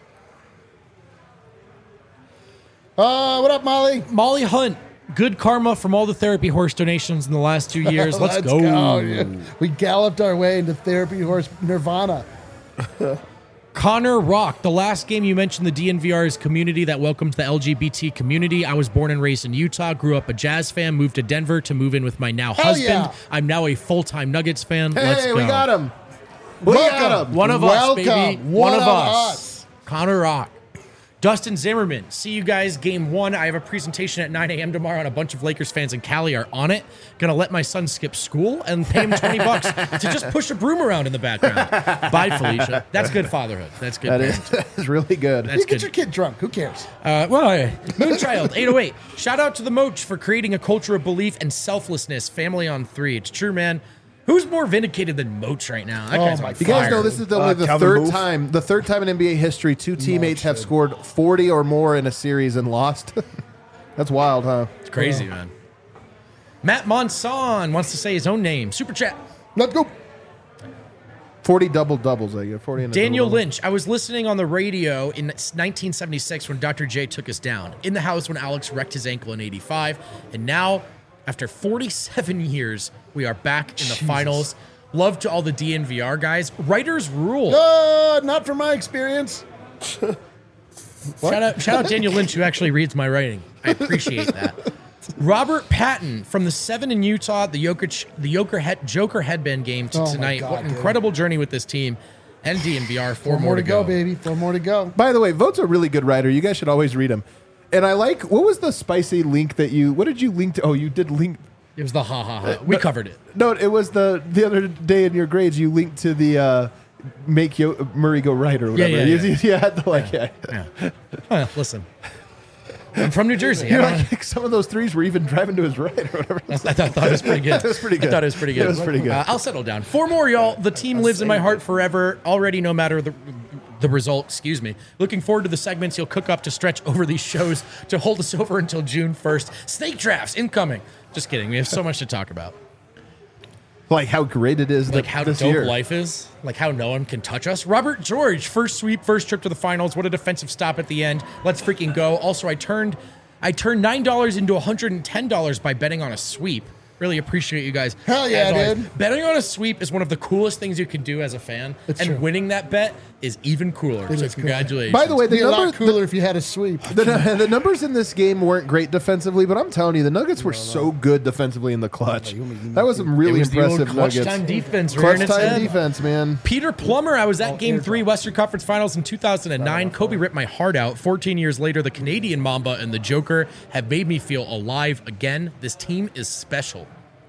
Uh, what up, Molly? Molly Hunt. Good karma from all the therapy horse donations in the last two years. Let's, go. Yeah. We galloped our way into therapy horse nirvana. Connor Rock, the last game you mentioned the D N V R's community that welcomes the L G B T community. I was born and raised in Utah, grew up a Jazz fan, moved to Denver to move in with my now Hell husband. yeah. I'm now a full-time Nuggets fan. Hey, Let's go. we got him. We Welcome. got him. One of Welcome. us, baby. One One, of, of us. us. Connor Rock. Dustin Zimmerman. See you guys game one. I have a presentation at nine a.m. tomorrow, and a bunch of Lakers fans in Cali are on it. Gonna let my son skip school and pay him twenty bucks to just push a broom around in the background. Bye, Felicia. That's good fatherhood. That's good. That is, parenting. that is really good. That's You get good. your kid drunk. Who cares? Uh, well, uh, Moonchild eight oh eight. Shout out to the Moach for creating a culture of belief and selflessness. Family on three. It's true, man. Who's more vindicated than Moach right now? That Oh guy's my on You guys fire. know this is the, Uh, only the Calvin third Booth. time, the third time in N B A history, two teammates have scored forty or more in a series and lost. That's wild, huh? It's crazy, man. Matt Monson wants to say his own name. Super chat. Let's go. forty double doubles, I get forty. And a Daniel double-double. Lynch. I was listening on the radio in nineteen seventy-six when Doctor J took us down. In the house when Alex wrecked his ankle in eighty-five. And now, after forty-seven years, we are back in the Jesus. finals. Love to all the D N V R guys. Writers rule. Uh, not from my experience. Shout out, shout out Daniel Lynch, who actually reads my writing. I appreciate that. Robert Patton from the seven in Utah, the Jokic, the Joker, head, Joker headband game to Oh my tonight. God, what an dude. incredible journey with this team and D N V R. Four, Four more to go, baby. Four more to go. By the way, Vote's a really good writer. You guys should always read him. And I like, what was the spicy link that you, what did you link to? Oh, you did link. It was the ha ha ha. We covered it. No, it was the the other day in your grades, you linked to the uh, make Yo- Murray go right or whatever. yeah, you, yeah. you had the like, yeah. Yeah. Huh, listen, I'm from New Jersey. You're I, don't- like, some of those threes were even driving to his right or whatever. I thought, I thought it was pretty good. That was pretty good. I thought it was pretty good. That was pretty good. Uh, I'll settle down. Four more, y'all. The team lives in my heart forever. Already, no matter the the result. Excuse me. Looking forward to the segments you'll cook up to stretch over these shows to hold us over until June first. Snake drafts incoming. Just kidding. We have so much to talk about. Like how great it is. Like that how this dope year. life is. Like how no one can touch us. Robert George, first sweep, first trip to the finals. What a defensive stop at the end. Let's freaking go. Also, I turned I turned nine dollars into one hundred ten dollars by betting on a sweep. Really appreciate you guys. Hell yeah, As always, dude. Betting on a sweep is one of the coolest things you can do as a fan. It's and true. winning that bet is even cooler. It so is cool. congratulations. By the way, It'd the be a lot number, cooler if you had a sweep. the, the numbers in this game weren't great defensively, but I'm telling you, the Nuggets were so good defensively in the clutch. That was some it really was the old impressive clutch Nuggets. time defense. Clutch rearing its time head. defense, man. Peter Plummer, I was at Game three, Western Conference Finals in two thousand nine. Kobe ripped my heart out. fourteen years later, the Canadian Mamba and the Joker have made me feel alive again. This team is special.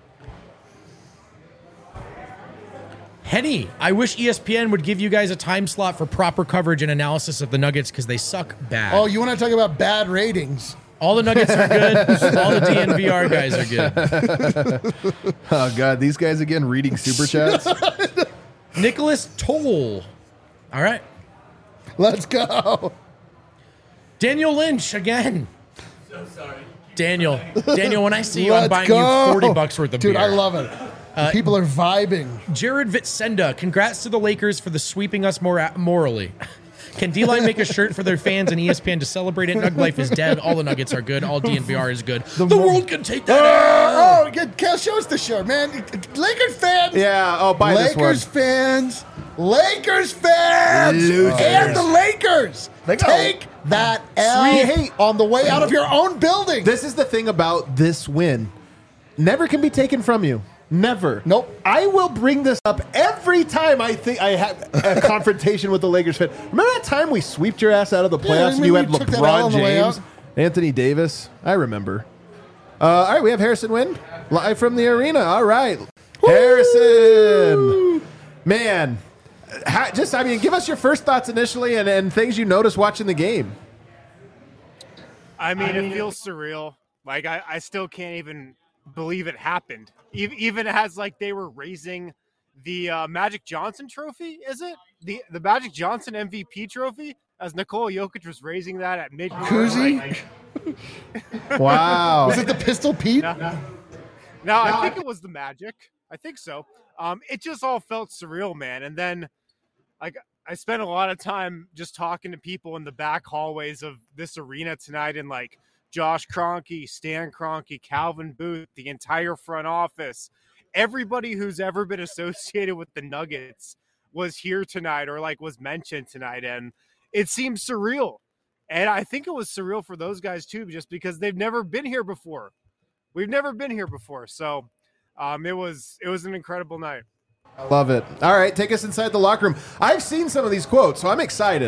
Henny, I wish E S P N would give you guys a time slot for proper coverage and analysis of the Nuggets because they suck bad. Oh, you want to talk about bad ratings? All the Nuggets are good. All the D N V R guys are good. Oh, God. These guys again reading super chats. Nicholas Toll. All right. Let's go. Daniel Lynch again. So sorry. Daniel, Daniel, when I see you, I'm Let's buying go. you forty bucks worth of Dude, beer. I love it. People are vibing. Jared Vitsenda, congrats to the Lakers for the sweeping us more morally. Can D-Line make a shirt for their fans and E S P N to celebrate it? Nug Life is dead. All the Nuggets are good. All D N V R is good. The, world can take that. L. Oh, get, Cal, show us the shirt, man. Lakers fans. Yeah. Oh, buy this one. Lakers fans. Lakers fans. Losers. And the Lakers. They go. Take that L Hey. on the way out of your own building. This is the thing about this win. Never can be taken from you. Never. Nope. I will bring this up every time I think I have a confrontation with the Lakers fan. Remember that time we sweeped your ass out of the Yeah, playoffs and you had remember you took that L LeBron on the way James, out? Anthony Davis? I remember. Uh, all right, we have Harrison Wynn live from the arena. All right. Harrison. Man. How, just, I mean, give us your first thoughts initially and, and things you noticed watching the game. I mean, it feels surreal. Like, I, I still can't even believe it happened. E- Even as, like, they were raising the uh, Magic Johnson trophy, is it? The the Magic Johnson M V P trophy, as Nikola Jokic was raising that at mid Koozie? Wow. Was it the Pistol Pete? No, no, I think it was the Magic. I think so. Um, it just all felt surreal, man. And then, like, I spent a lot of time just talking to people in the back hallways of this arena tonight, and like Josh Kroenke, Stan Kroenke, Calvin Booth, the entire front office, everybody who's ever been associated with the Nuggets was here tonight or like was mentioned tonight, and it seemed surreal. And I think it was surreal for those guys too, just because they've never been here before. We've never been here before, so um, it was it was an incredible night. Love it. All right, take us inside the locker room. I've seen some of these quotes, so I'm excited.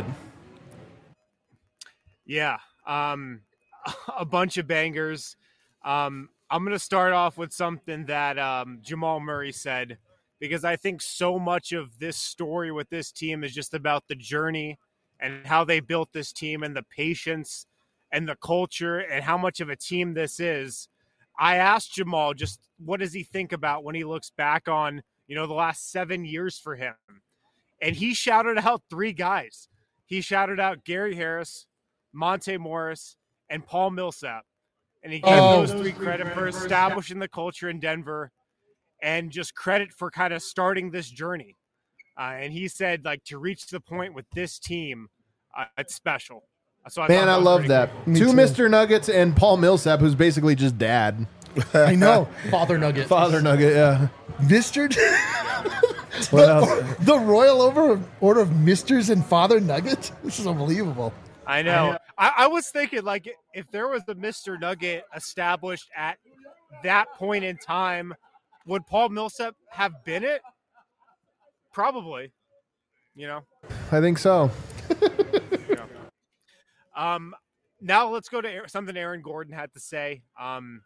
Yeah, um, a bunch of bangers. Um, I'm going to start off with something that um, Jamal Murray said, because I think so much of this story with this team is just about the journey and how they built this team and the patience and the culture and how much of a team this is. I asked Jamal just what does he think about when he looks back on, you know, the last seven years for him. And he shouted out three guys. He shouted out Gary Harris, Monte Morris, and Paul Millsap. And he gave Oh. those three credit for establishing the culture in Denver and just credit for kind of starting this journey. Uh, and he said, like, to reach the point with this team, uh, it's special. So I Man, thought I was love pretty that. cool. Me Two too. Mister Nuggets and Paul Millsap, who's basically just dad. I know. Father Nugget. Father Nugget, yeah. Mister What else? the, the Royal over Order of Misters and Father Nugget? This is unbelievable. I know. I, I was thinking, like, if there was a Mister Nugget established at that point in time, would Paul Millsap have been it? Probably. You know? I think so. Yeah. Um, now let's go to Aaron- something Aaron Gordon had to say. Um,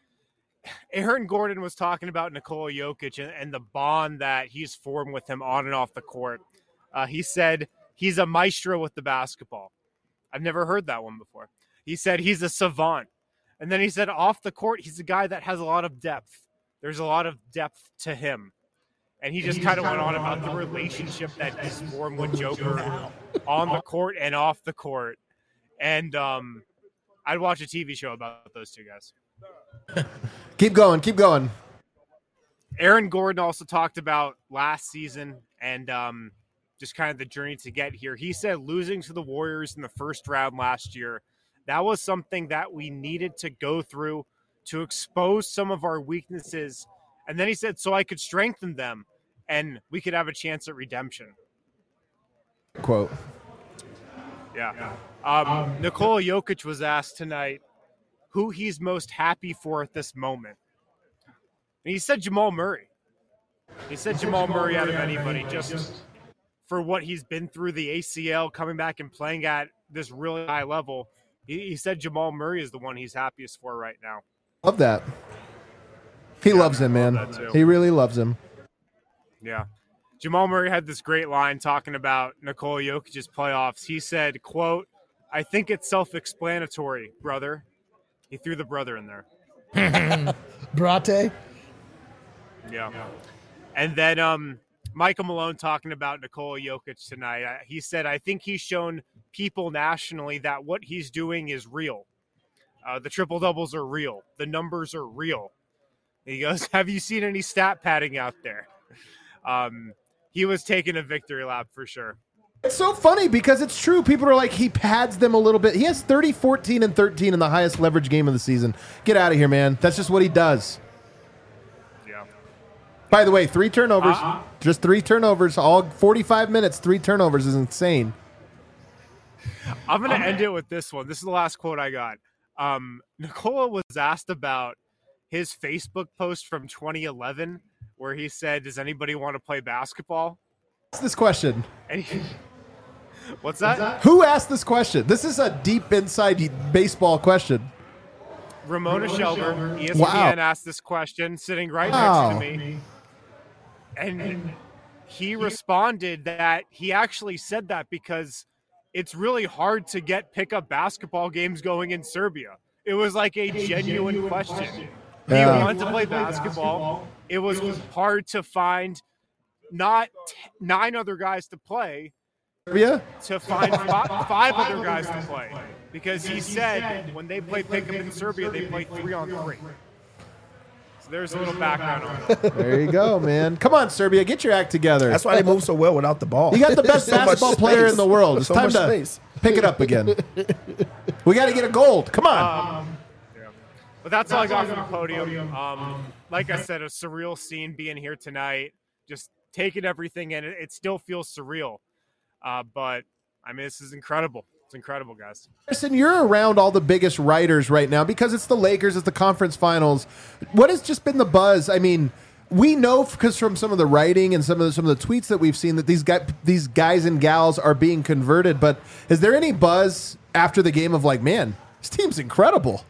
Aaron Gordon was talking about Nikola Jokic and, and the bond that he's formed with him on and off the court. Uh, he said he's a maestro with the basketball. I've never heard that one before. He said he's a savant. And then he said off the court, he's a guy that has a lot of depth. There's a lot of depth to him. And he just kind of went on about the relationship that he's formed with Joker on the court and off the court. And um, I'd watch a T V show about those two guys. Keep going, keep going. Aaron Gordon also talked about last season and um, just kind of the journey to get here. He said losing to the Warriors in the first round last year, that was something that we needed to go through to expose some of our weaknesses. And then he said, so I could strengthen them and we could have a chance at redemption. Quote. Yeah. Um, Nikola Jokic was asked tonight who he's most happy for at this moment. And he said Jamal Murray. He said Jamal Murray out of anybody just for what he's been through, the A C L, coming back and playing at this really high level. He, he said Jamal Murray is the one he's happiest for right now. Love that. He loves him, man. He really loves him. Yeah. Jamal Murray had this great line talking about Nikola Jokic's playoffs. He said, quote, I think it's self-explanatory, brother. He threw the brother in there. Brate? Yeah. And then um, Michael Malone talking about Nikola Jokic tonight. Uh, he said, I think he's shown people nationally that what he's doing is real. Uh, the triple-doubles are real. The numbers are real. He goes, have you seen any stat padding out there? Um, he was taking a victory lap for sure. It's so funny because it's true. People are like, he pads them a little bit. He has thirty, fourteen, and thirteen in the highest leverage game of the season. Get out of here, man. That's just what he does. Yeah. By the way, three turnovers. Uh-huh. Just three turnovers. All forty-five minutes, three turnovers is insane. I'm going to end it with this one. This is the last quote I got. Um, Nikola was asked about his Facebook post from twenty eleven where he said, does anybody want to play basketball? What's this question? And he, what's that? Who asked this question? This is a deep inside baseball question. Ramona, Ramona Shelburne, Shelburne, E S P N Wow. asked this question sitting right Wow. next to me. And he responded that he actually said that because it's really hard to get pickup basketball games going in Serbia. It was like a, a genuine, genuine question. question. Yeah. He wanted to play basketball. basketball. It was hard to find not t- nine other guys to play, Serbia? to find five, five other guys to play. Because he said when they play pickup in Serbia, they play three on three. So there's a little background on that. There you go, man. Come on, Serbia, get your act together. That's why they move so well without the ball. You got the best So much basketball player space. in the world. It's So time much to space. pick it up again. We got to get a gold. Come on. Um, yeah. But that's, that's all I got from the podium. Um, like I said, a surreal scene being here tonight. Just taking everything in. It, it still feels surreal. Uh, but, I mean, this is incredible. It's incredible, guys. Listen, you're around all the biggest writers right now because it's the Lakers, it's the conference finals. What has just been the buzz? I mean, we know because from some of the writing and some of the, some of the tweets that we've seen that these guys, these guys and gals are being converted. But is there any buzz after the game of like, man, this team's incredible?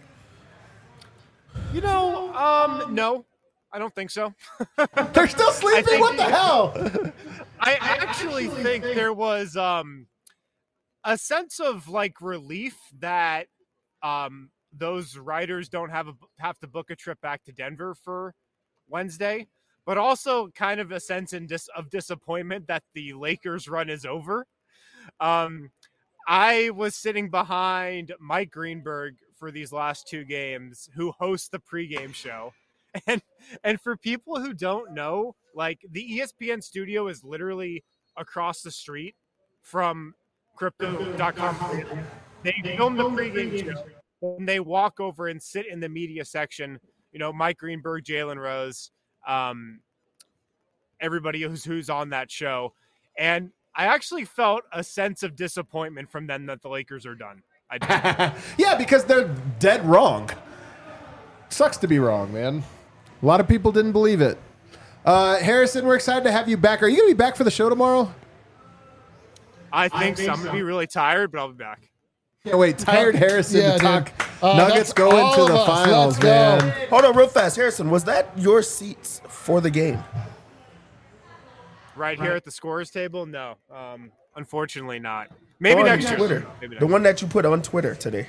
You know, um, no, I don't think so. They're still sleeping? think- What the hell? I actually think there was um, a sense of like relief that um, those writers don't have a, have to book a trip back to Denver for Wednesday, but also kind of a sense in dis- of disappointment that the Lakers run is over. Um, I was sitting behind Mike Greenberg for these last two games, who hosts the pregame show. And and for people who don't know, Like the E S P N studio is literally across the street from crypto dot com. They film the pregame show and they walk over and sit in the media section. You know, Mike Greenberg, Jalen Rose, um, everybody who's who's on that show. And I actually felt a sense of disappointment from them that the Lakers are done. I did. Yeah, because they're dead wrong. Sucks to be wrong, man. A lot of people didn't believe it. Uh, Harrison, we're excited to have you back. Are you going to be back for the show tomorrow? I think so. I'm going to be really tired, but I'll be back. Yeah, wait, tired Harrison Yeah, to talk uh, Nuggets that's go all into of the us. finals, Let's go. man. Hold on real fast. Harrison, was that your seats for the game? Right here at the scorers table? No. Um, unfortunately not. Maybe On next year. Twitter. Maybe next The year. one that you put on Twitter today.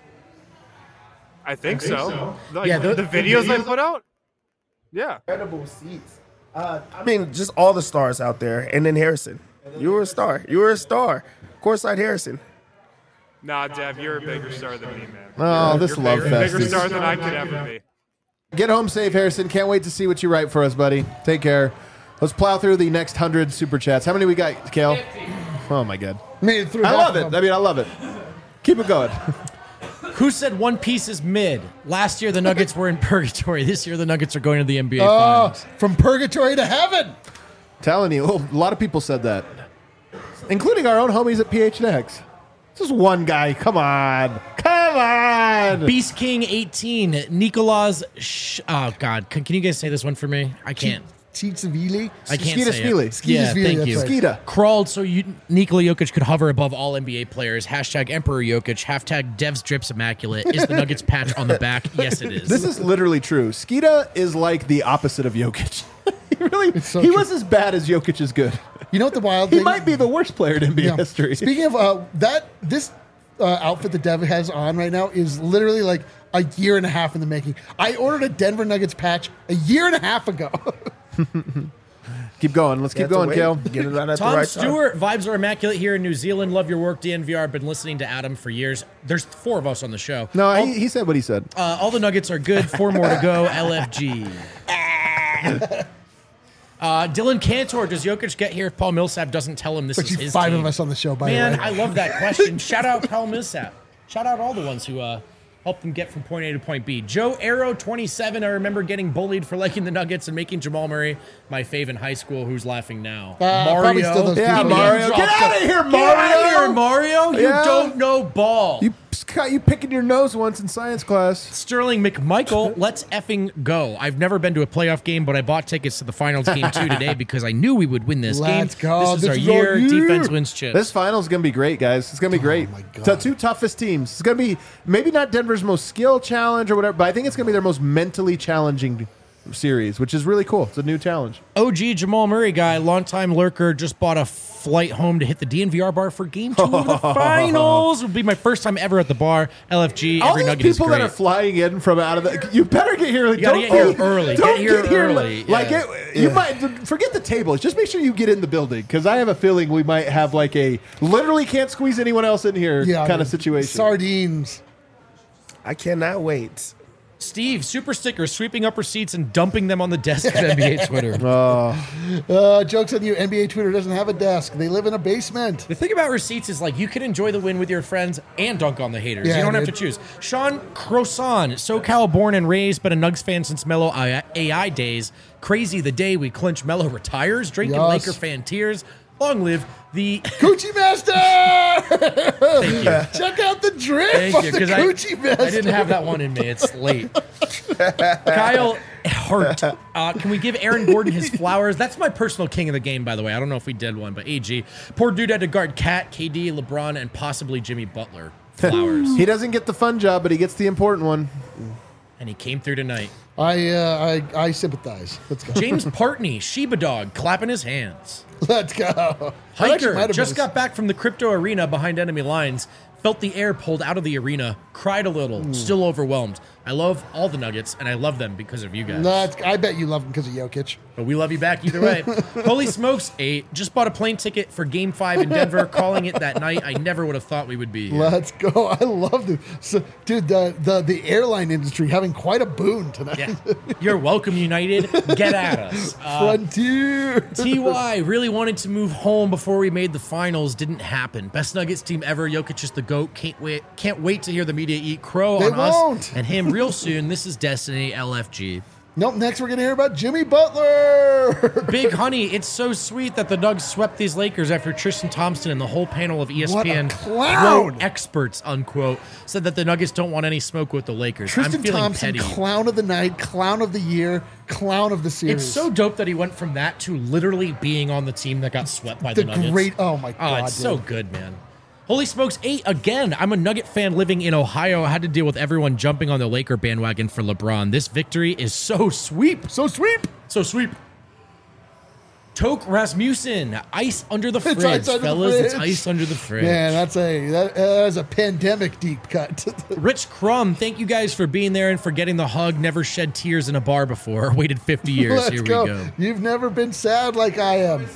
I think, so. Like, Yeah, the, the- the videos I put out? Yeah. Incredible seats. Uh, I mean, just all the stars out there. And then Harrison. You were a star. You were a star. Courtside Harrison. Nah, Dev, you're a bigger star than me, man. Oh, You're- this you're love bigger, fest bigger is- star than I could ever be. Get home safe, Harrison. Can't wait to see what you write for us, buddy. Take care. Let's plow through the next hundred super chats. How many we got, Kale? Oh, my God. Made it through. I half love of it. them. I mean, I love it. Keep it going. Who said One Piece is mid? Last year the Nuggets were in purgatory. This year the Nuggets are going to the N B A Oh, Finals. from purgatory to heaven. Telling you, oh, a lot of people said that, including our own homies at P H N X. Just one guy. Come on. Come on. Beast King eighteen, Nicolas. Sh- oh God, can, can you guys say this one for me? I can't. Tzitzivili. I can't Skeeta say Svili. it. Skeeta Yeah, Svili, thank that's you. right. Skeeta. Crawled so you, Nikola Jokic could hover above all N B A players. Hashtag Emperor Jokic. Hashtag Dev's Drips Immaculate. Is the Nuggets patch on the back? Yes, it is. This is literally true. Skeeta is like the opposite of Jokic. he really, so he true. was as bad as Jokic is good. You know what the wild He thing? might be the worst player in N B A Yeah. history. Speaking of uh, that, this uh, outfit that Dev has on right now is literally like a year and a half in the making. I ordered a Denver Nuggets patch a year and a half ago. Keep going. Let's You keep have to going, wait. Kale. Get it out at Tom the right time. Stewart, vibes are immaculate here in New Zealand. Love your work, D N V R. Been listening to Adam for years. There's four of us on the show. No, all, he, he said what he said. uh, all the Nuggets are good. Four more to go. L F G. Uh, Dylan Cantor, does Jokic get here if Paul Millsap doesn't tell him this But is you his five team? of us on the show, by Man, the way. I love that question. Shout out Paul Millsap. Shout out all the ones who uh, helped them get from point A to point B. Joe Arrow, twenty-seven. I remember getting bullied for liking the Nuggets and making Jamal Murray my fave in high school. Who's laughing now? Uh, probably still those Yeah, people. Mario. Get dropped out of the- here, Get out of here, Mario. Mario. You Yeah. don't know ball. You got you picking your nose once in science class. Sterling McMichael, let's effing go. I've never been to a playoff game, but I bought tickets to the finals game two today because I knew we would win this Let's game. go. This is This our is our year. year. Defense wins chips. This finals is gonna be great, guys. It's gonna be great. Oh my God. The two toughest teams. It's gonna be maybe not Denver's most skill challenge or whatever, but I think it's gonna be their most mentally challenging series, which is really cool. It's a new challenge. O G Jamal Murray guy, longtime lurker, just bought a flight home to hit the D N V R bar for game two of the finals. It would be my first time ever at the bar. L F G, All every these nugget is people great. that are flying in from out of the, you better get here. You gotta don't get here early. Don't Get here early. li- Like Yeah. it, you might forget the tables. Just make sure you get in the building because I have a feeling we might have like a literally can't squeeze anyone else in here Yeah, kind of dude. situation. Sardines. I cannot wait. Steve, super stickers, sweeping up receipts and dumping them on the desk of N B A Twitter. Uh, jokes on you. N B A Twitter doesn't have a desk. They live in a basement. The thing about receipts is like you can enjoy the win with your friends and dunk on the haters. Yeah, you don't have dude. to choose. Sean Croissant, SoCal born and raised, but a Nugs fan since Melo A I days. Crazy the day we clinch Melo retires. Drinking Yes. Laker fan tears. Long live the. Coochie Master! Thank you. Check out the drip Thank on you, the because I, Coochie Master. I didn't have that one in me. It's late. Kyle Hart, uh, can we give Aaron Gordon his flowers? That's my personal king of the game, by the way. I don't know if we did one, but A G. Poor dude had to guard Cat, K D, LeBron, and possibly Jimmy Butler. Flowers. He doesn't get the fun job, but he gets the important one. And he came through tonight. I, uh, I I sympathize. Let's go. James Partney, Sheba Dog, clapping his hands. Let's go. That actually might Hiker have just been a- got back from the crypto arena behind enemy lines. felt the air pulled out of the arena, cried a little, still overwhelmed. I love all the Nuggets, and I love them because of you guys. That's, I bet you love him because of Jokic. But we love you back either way. Holy smokes, eight. Just bought a plane ticket for game five in Denver, calling it that night. I never would have thought we would be here. Let's go. I love this. So, dude, the, the, the airline industry having quite a boon tonight. Yeah. You're welcome, United. Get at us. Uh, Frontier. T Y really wanted to move home before we made the finals. Didn't happen. Best Nuggets team ever. Jokic is the GOAT. Can't wait, can't wait to hear the media eat crow They on won't. us and him real soon. This is Destiny L F G. Nope, next we're going to hear about Jimmy Butler. Big Honey, it's so sweet that the Nugs swept these Lakers after Tristan Thompson and the whole panel of E S P N What a clown. quote, experts, unquote, said that the Nuggets don't want any smoke with the Lakers. Tristan I'm feeling Thompson, petty. clown of the night, clown of the year, clown of the series. It's so dope that he went from that to literally being on the team that got swept by the, the Nuggets. great. Oh my Oh, god, it's dude. so good, man. Holy smokes, eight again. I'm a Nugget fan living in Ohio. I had to deal with everyone jumping on the Laker bandwagon for LeBron. This victory is so sweep. So sweep. So sweep. Toke Rasmussen, ice under the fridge, ice under the fellas. It's fridge. ice under the fridge. Man, that's a that, that is a pandemic deep cut. Rich Crumb, thank you guys for being there and for getting the hug. Never shed tears in a bar before. Waited fifty years. Let's Here go. we go. You've never been sad like I am.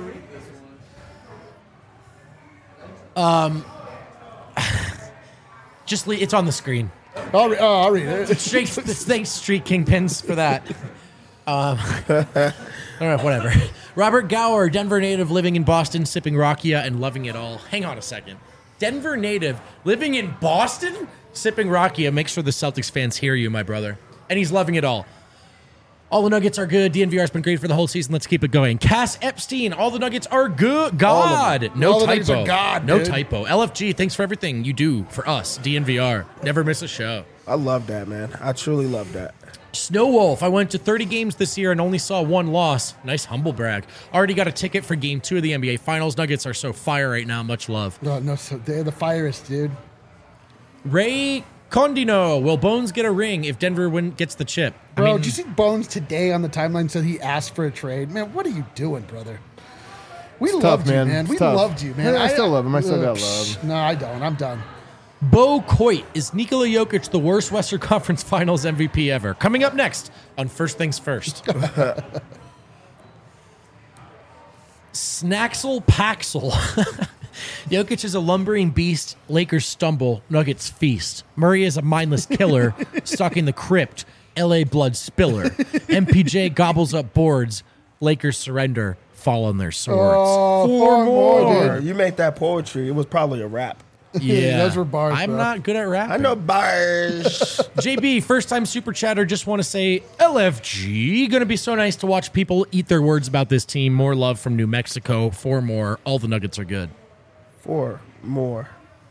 Just le- it's on the screen. I'll, re- oh, I'll read it. Straight, thanks, Street Kingpins, for that. Um, all right, whatever. Robert Gower, Denver native, living in Boston, sipping Rakia and loving it all. Hang on a second. Denver native, living in Boston, sipping Rakia. Make sure the Celtics fans hear you, my brother. And he's loving it all. All the Nuggets are good. D N V R's been great for the whole season. Let's keep it going. Cass Epstein, all the Nuggets are good. God. No All the Nuggets typo. are God, no dude. typo. L F G, thanks for everything you do for us. D N V R. Never miss a show. I love that, man. I truly love that. Snow Wolf, I went to thirty games this year and only saw one loss. Nice humble brag. Already got a ticket for game two of the N B A Finals. Nuggets are so fire right now. Much love. No, no, so they're the firest, dude. Ray Condino, will Bones get a ring if Denver win, gets the chip? I Bro, mean, did you see Bones today on the timeline said he asked for a trade? Man, what are you doing, brother? We It's loved tough, you, man. man. It's We tough. loved you, man. I still love him. I still uh, got love. psh, No, I don't. I'm done. Bo Coit, is Nikola Jokic the worst Western Conference Finals M V P ever? Coming up next on First Things First. Snaxel Paxel. Jokic is a lumbering beast. Lakers stumble. Nuggets feast. Murray is a mindless killer, stalking the crypt. L A blood spiller. M P J gobbles up boards. Lakers surrender. Fall on their swords. Oh, four more, Or dude. you make that poetry, it was probably a rap. Yeah, Those were bars, I'm bro. not good at rapping. I know bars. J B, first time super chatter. Just want to say L F G. Going to be so nice to watch people eat their words about this team. More love from New Mexico. Four more. All the Nuggets are good. Four more.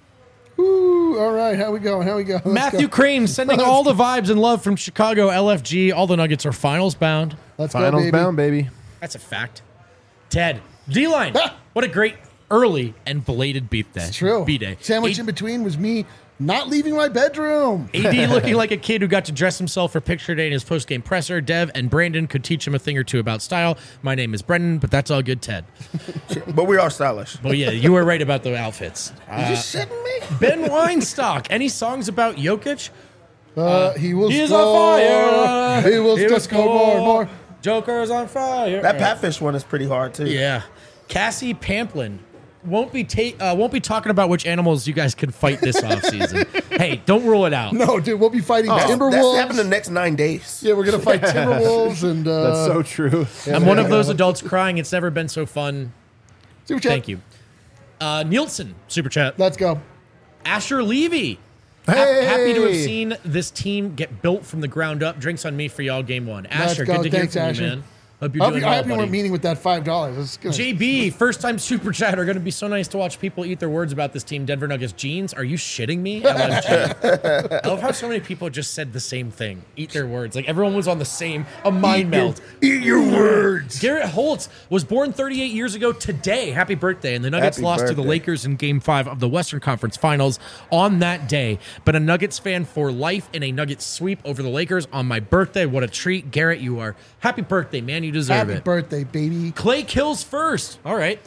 Ooh, all right, how we going? How we going? Let's Matthew go. Crane sending all the vibes and love from Chicago. L F G. All the Nuggets are finals bound. Let's go, Finals baby. bound, baby. That's a fact. Ted, D-line. Ah! What a great early and belated beat day. It's true. B-day. Sandwich A- in between was me not leaving my bedroom. A D looking like a kid who got to dress himself for picture day in his post-game presser. Dev and Brandon could teach him a thing or two about style. My name is Brendan, but that's all good, Ted. But we are stylish. Well, yeah, you were right about the outfits. Are you shitting me? Ben Weinstock. Any songs about Jokic? Uh, he will He is score. on fire. He will He still will score more and more. Joker's on fire. That Patfish one is pretty hard too. Yeah. Cassie Pamplin. Won't be ta- uh, won't be talking about which animals you guys can fight this offseason. Hey, don't rule it out. No, dude, we'll be fighting That's, Timberwolves. that's happened the next nine days. Yeah, we're gonna fight Timberwolves and uh, That's so true. I'm one of those adults crying. It's never been so fun. Super chat. Thank you. Uh, Nielsen, super chat. Let's go. Asher Levy. Ha- Hey! happy to have seen this team get built from the ground up. Drinks on me for y'all game one. Asher, go. good to Thanks, hear from Asher. you, man. Hope you're I hope doing you, I well, hope you buddy. weren't meeting with that five dollars. It's gonna- J B, first time super chatter. Going to be so nice to watch people eat their words about this team. Denver Nuggets jeans. Are you shitting me? L F G. I love how so many people just said the same thing. Eat their words. Like everyone was on the same, a mind meld. Eat your words. Garrett Holtz was born thirty-eight years ago today. Happy birthday. And the Nuggets Happy lost to the birthday. Lakers in game five of the Western Conference Finals on that day. But a Nuggets fan for life in a Nuggets sweep over the Lakers on my birthday. What a treat. Garrett, you are. Happy birthday, man. You deserve Happy it. birthday, baby. Clay kills first. All right.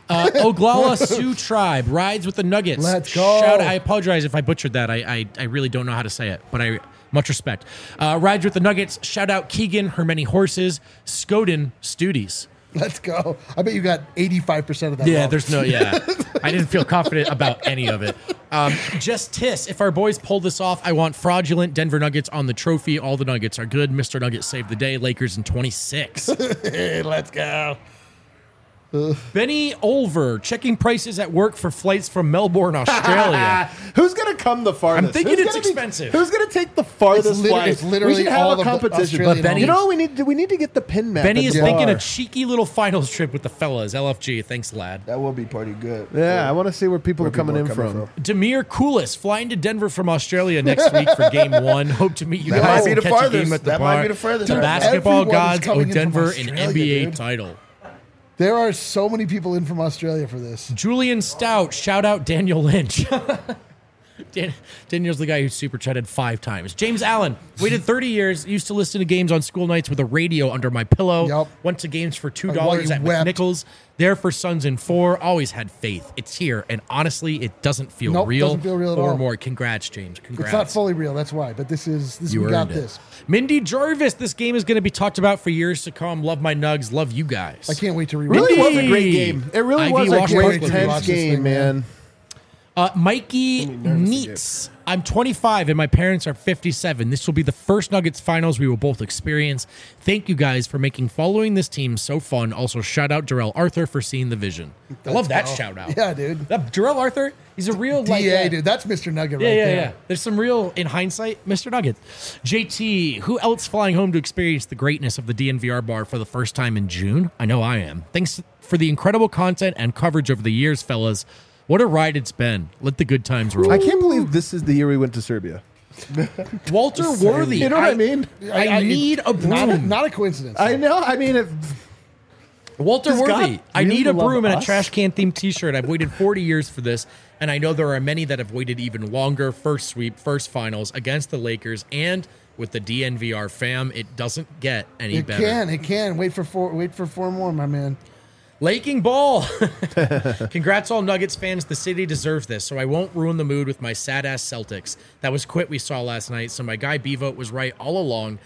Uh, Oglala Sioux Tribe rides with the Nuggets. Let's go. Shout, I apologize if I butchered that. I, I I really don't know how to say it, but I much respect. Uh, rides with the Nuggets. Shout out Keegan, her many horses. Skoden Studies. Let's go. I bet you got eighty-five percent of that. Yeah, wrong. there's no, yeah. I didn't feel confident about any of it. Um, just Tiss, if our boys pull this off, I want fraudulent Denver Nuggets on the trophy. All the Nuggets are good. Mister Nuggets saved the day. Lakers in twenty-six. Hey, let's go. Benny Olver, checking prices at work for flights from Melbourne, Australia. Who's gonna come the farthest? I'm thinking Who's it's gonna be- expensive. who's gonna take the farthest It's liter- flight? it's literally we should have all a of the competition. Australian But Benny- you know, what we need to we need to get the pin map. Benny at is the thinking bar. a cheeky little finals trip with the fellas. L F G, thanks, lad. That will be pretty good. Yeah, I want to see where people Where are coming people in are coming from. Demir Koulis, flying to Denver from Australia next week for game one. Hope to meet you That guys might be and the catch a farthest. game at the That bar. might be the furthest. The Dude, basketball everyone is gods owe coming in from Denver an Australia, N B A dude. title. There are so many people in from Australia for this. Julian Stout, shout out Daniel Lynch. Dan- Daniel's the guy who super chatted five times. James Allen, waited thirty years, used to listen to games on school nights with a radio under my pillow. Yep. Went to games for two While dollars you at wept. McNichols. There for Sons in four. Always had faith. It's here, and honestly, it doesn't feel Nope, real. doesn't feel real at Four all. more. Congrats, James. Congrats. It's not fully real, that's why. But this is this. You we got earned it. this. Mindy Jarvis, this game is going to be talked about for years to come. Love my Nugs. Love you guys. I can't wait to read. Really Mindy! was a great game. It really Ivy was a Wash great, Park Watch tense this game, thing, man. man. Uh, Mikey Neats. I'm twenty-five and my parents are fifty-seven. This will be the first Nuggets finals we will both experience. Thank you guys for making following this team so fun. Also, shout out Darrell Arthur for seeing the vision. I love that go. shout out. Yeah, dude. That Darrell Arthur, he's a real like, D A, uh, dude. That's Mister Nugget Yeah, right yeah, there. yeah. There's some real, in hindsight, Mister Nuggets. J T, who else flying home to experience the greatness of the D N V R bar for the first time in June? I know I am. Thanks for the incredible content and coverage over the years, fellas. What a ride it's been. Let the good times roll. I can't believe this is the year we went to Serbia. Walter Worthy. You know what I mean? I, need a broom. Not a, not a coincidence. I know. I mean, if, Walter Does Worthy. God I really need a love broom and a us? trash can themed T-shirt. I've waited forty years for this, and I know there are many that have waited even longer. First sweep, first finals against the Lakers, and with the D N V R fam, it doesn't get any it better. can. It can. Wait for four. Wait for four more, my man. Laking ball. Congrats, all Nuggets fans. The city deserves this, so I won't ruin the mood with my sad ass Celtics. That was quit we saw last night, so my guy B-Vote was right all along.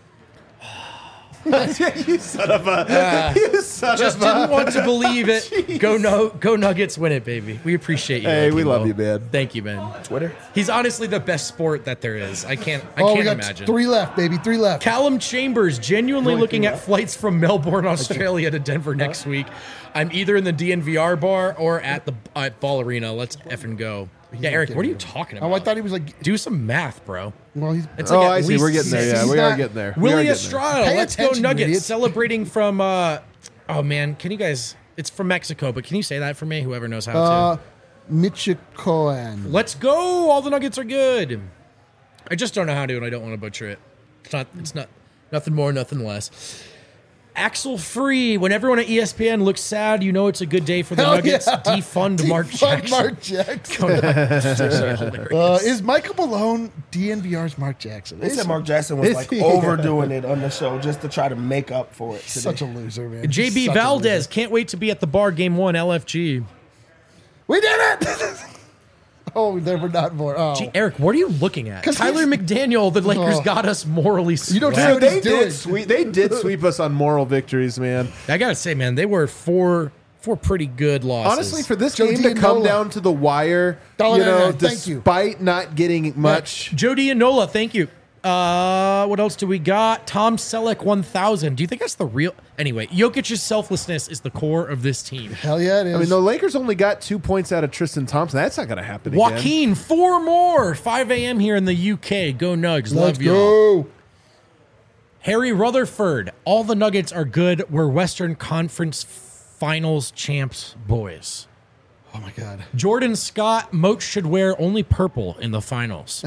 you son of a, you son Just of didn't a. want to believe it. Go no, go Nuggets, win it, baby. We appreciate you. Hey, we Laking love Ball. you, man. Thank you, man. Twitter. He's honestly the best sport that there is. I can't. I oh, can't we got imagine. three left, baby. Three left. Callum Chambers genuinely looking at flights from Melbourne, Australia to Denver next week. I'm either in the D N V R bar or at the at Ball Arena. Let's effing go. Yeah, Eric, what are you talking about? Oh, I thought he was like. Do some math, bro. Well, he's. It's Oh, like at I see. least We're getting there. Yeah, he's we are not- getting there. We are Willie getting there. Estrada, Pay let's go attention, you Nuggets. idiots. Celebrating from, uh, oh man, can you guys, it's from Mexico, but can you say that for me? Whoever knows how Uh, to. Michikoan. Let's go. All the Nuggets are good. I just don't know how to, and I don't want to butcher it. It's not, it's not, nothing more, nothing less. Axel Free, when everyone at E S P N looks sad, you know it's a good day for the Hell Nuggets. yeah. Defund Mark Defund Jackson. Mark Jackson. Go Nuggets. It's actually hilarious. Uh, is Michael Malone D N V R's Mark Jackson? They Is said Mark Jackson was Is like he? overdoing it on the show just to try to make up for it today. such a loser, man. J B Such a Valdez, loser. can't wait to be at the bar game one, L F G. We did it! oh, there were not more. Oh. Gee, Eric, what are you looking at? 'Cause Tyler he's- McDaniel, the Lakers Oh. got us morally You don't swept. say Dude, what they he's doing. did sweep. They did sweep us on moral victories, man. I gotta say, man, they were four four pretty good losses. Honestly, for this Joe game to come Dianola. down to the wire, Dollar you know, ninety-nine, thank you. despite not getting much. Joe Dianola, thank you. Uh, what else do we got? Tom Selleck, one thousand. Do you think that's the real? Anyway, Jokic's selflessness is the core of this team. Hell yeah, it is. I mean, the Lakers only got two points out of Tristan Thompson. That's not going to happen again. Joaquin, four more. five a.m. here in the U K. Go Nugs. Let's Love y'all. go. Harry Rutherford. All the Nuggets are good. We're Western Conference Finals champs, boys. Oh my God. Jordan Scott, Moat should wear only purple in the finals.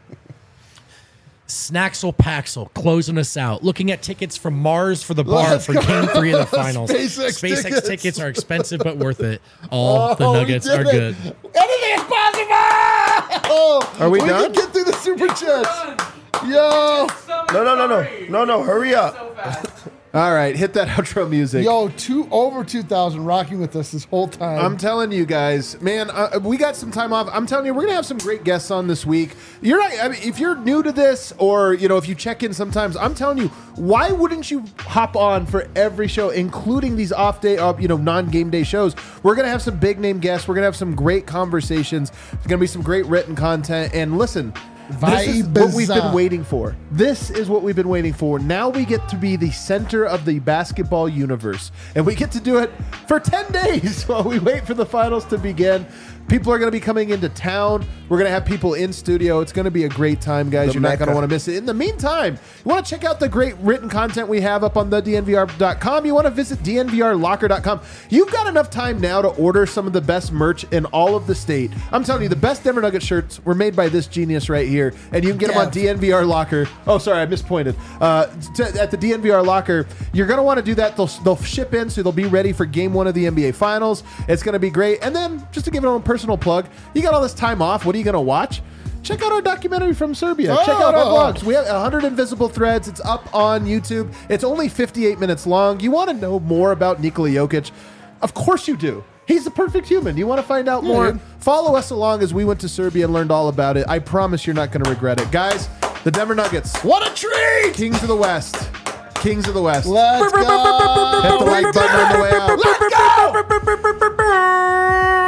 Snaxel Paxel closing us out. Looking at tickets from Mars for the bar Let's for go. game three of the finals. SpaceX SpaceX tickets. tickets. are expensive but worth it. All the Oh, we Nuggets did are it. good. Anything is possible! Oh, Are we we done? can get through the super chats. Yo. No, no, no, no, no, no. Hurry up. All right, hit that outro music. Yo, two over two thousand rocking with us this whole time. I'm telling you guys, man, uh, we got some time off. I'm telling you, we're gonna have some great guests on this week. You're not. I mean, if you're new to this, or you know, if you check in sometimes, I'm telling you, why wouldn't you hop on for every show, including these off day, uh, you know, non-game day shows? We're gonna have some big name guests. We're gonna have some great conversations. There's gonna be some great written content. And listen. This is what we've been waiting for. This is what we've been waiting for. Now we get to be the center of the basketball universe. And we get to do it for ten days while we wait for the finals to begin. People are going to be coming into town. We're going to have people in studio. It's going to be a great time, guys. The You're not going to Mecca. want to miss it. In the meantime, you want to check out the great written content we have up on the D N V R dot com. You want to visit D N V R locker dot com. You've got enough time now to order some of the best merch in all of the state. I'm telling you, the best Denver Nuggets shirts were made by this genius right here, and you can get them on Dev. D N V R Locker. Oh, sorry, I mispointed. Uh, to, at the D N V R Locker, you're going to want to do that. They'll, they'll ship in, so they'll be ready for game one of the N B A Finals. It's going to be great. And then, just to give it a personal plug, you got all this time off. What are you going to watch? Check out our documentary from Serbia. Check out our Oh. vlogs. We have one hundred Invisible Threads. It's up on YouTube. It's only fifty-eight minutes long. You want to know more about Nikola Jokic? Of course you do. He's the perfect human. You want to find out more? dude. Follow us along as we went to Serbia and learned all about it. I promise you're not going to regret it. Guys, the Denver Nuggets. What a treat! Kings of the West. Kings of the West. Let's go! Hit the like button on the way out. Let's go!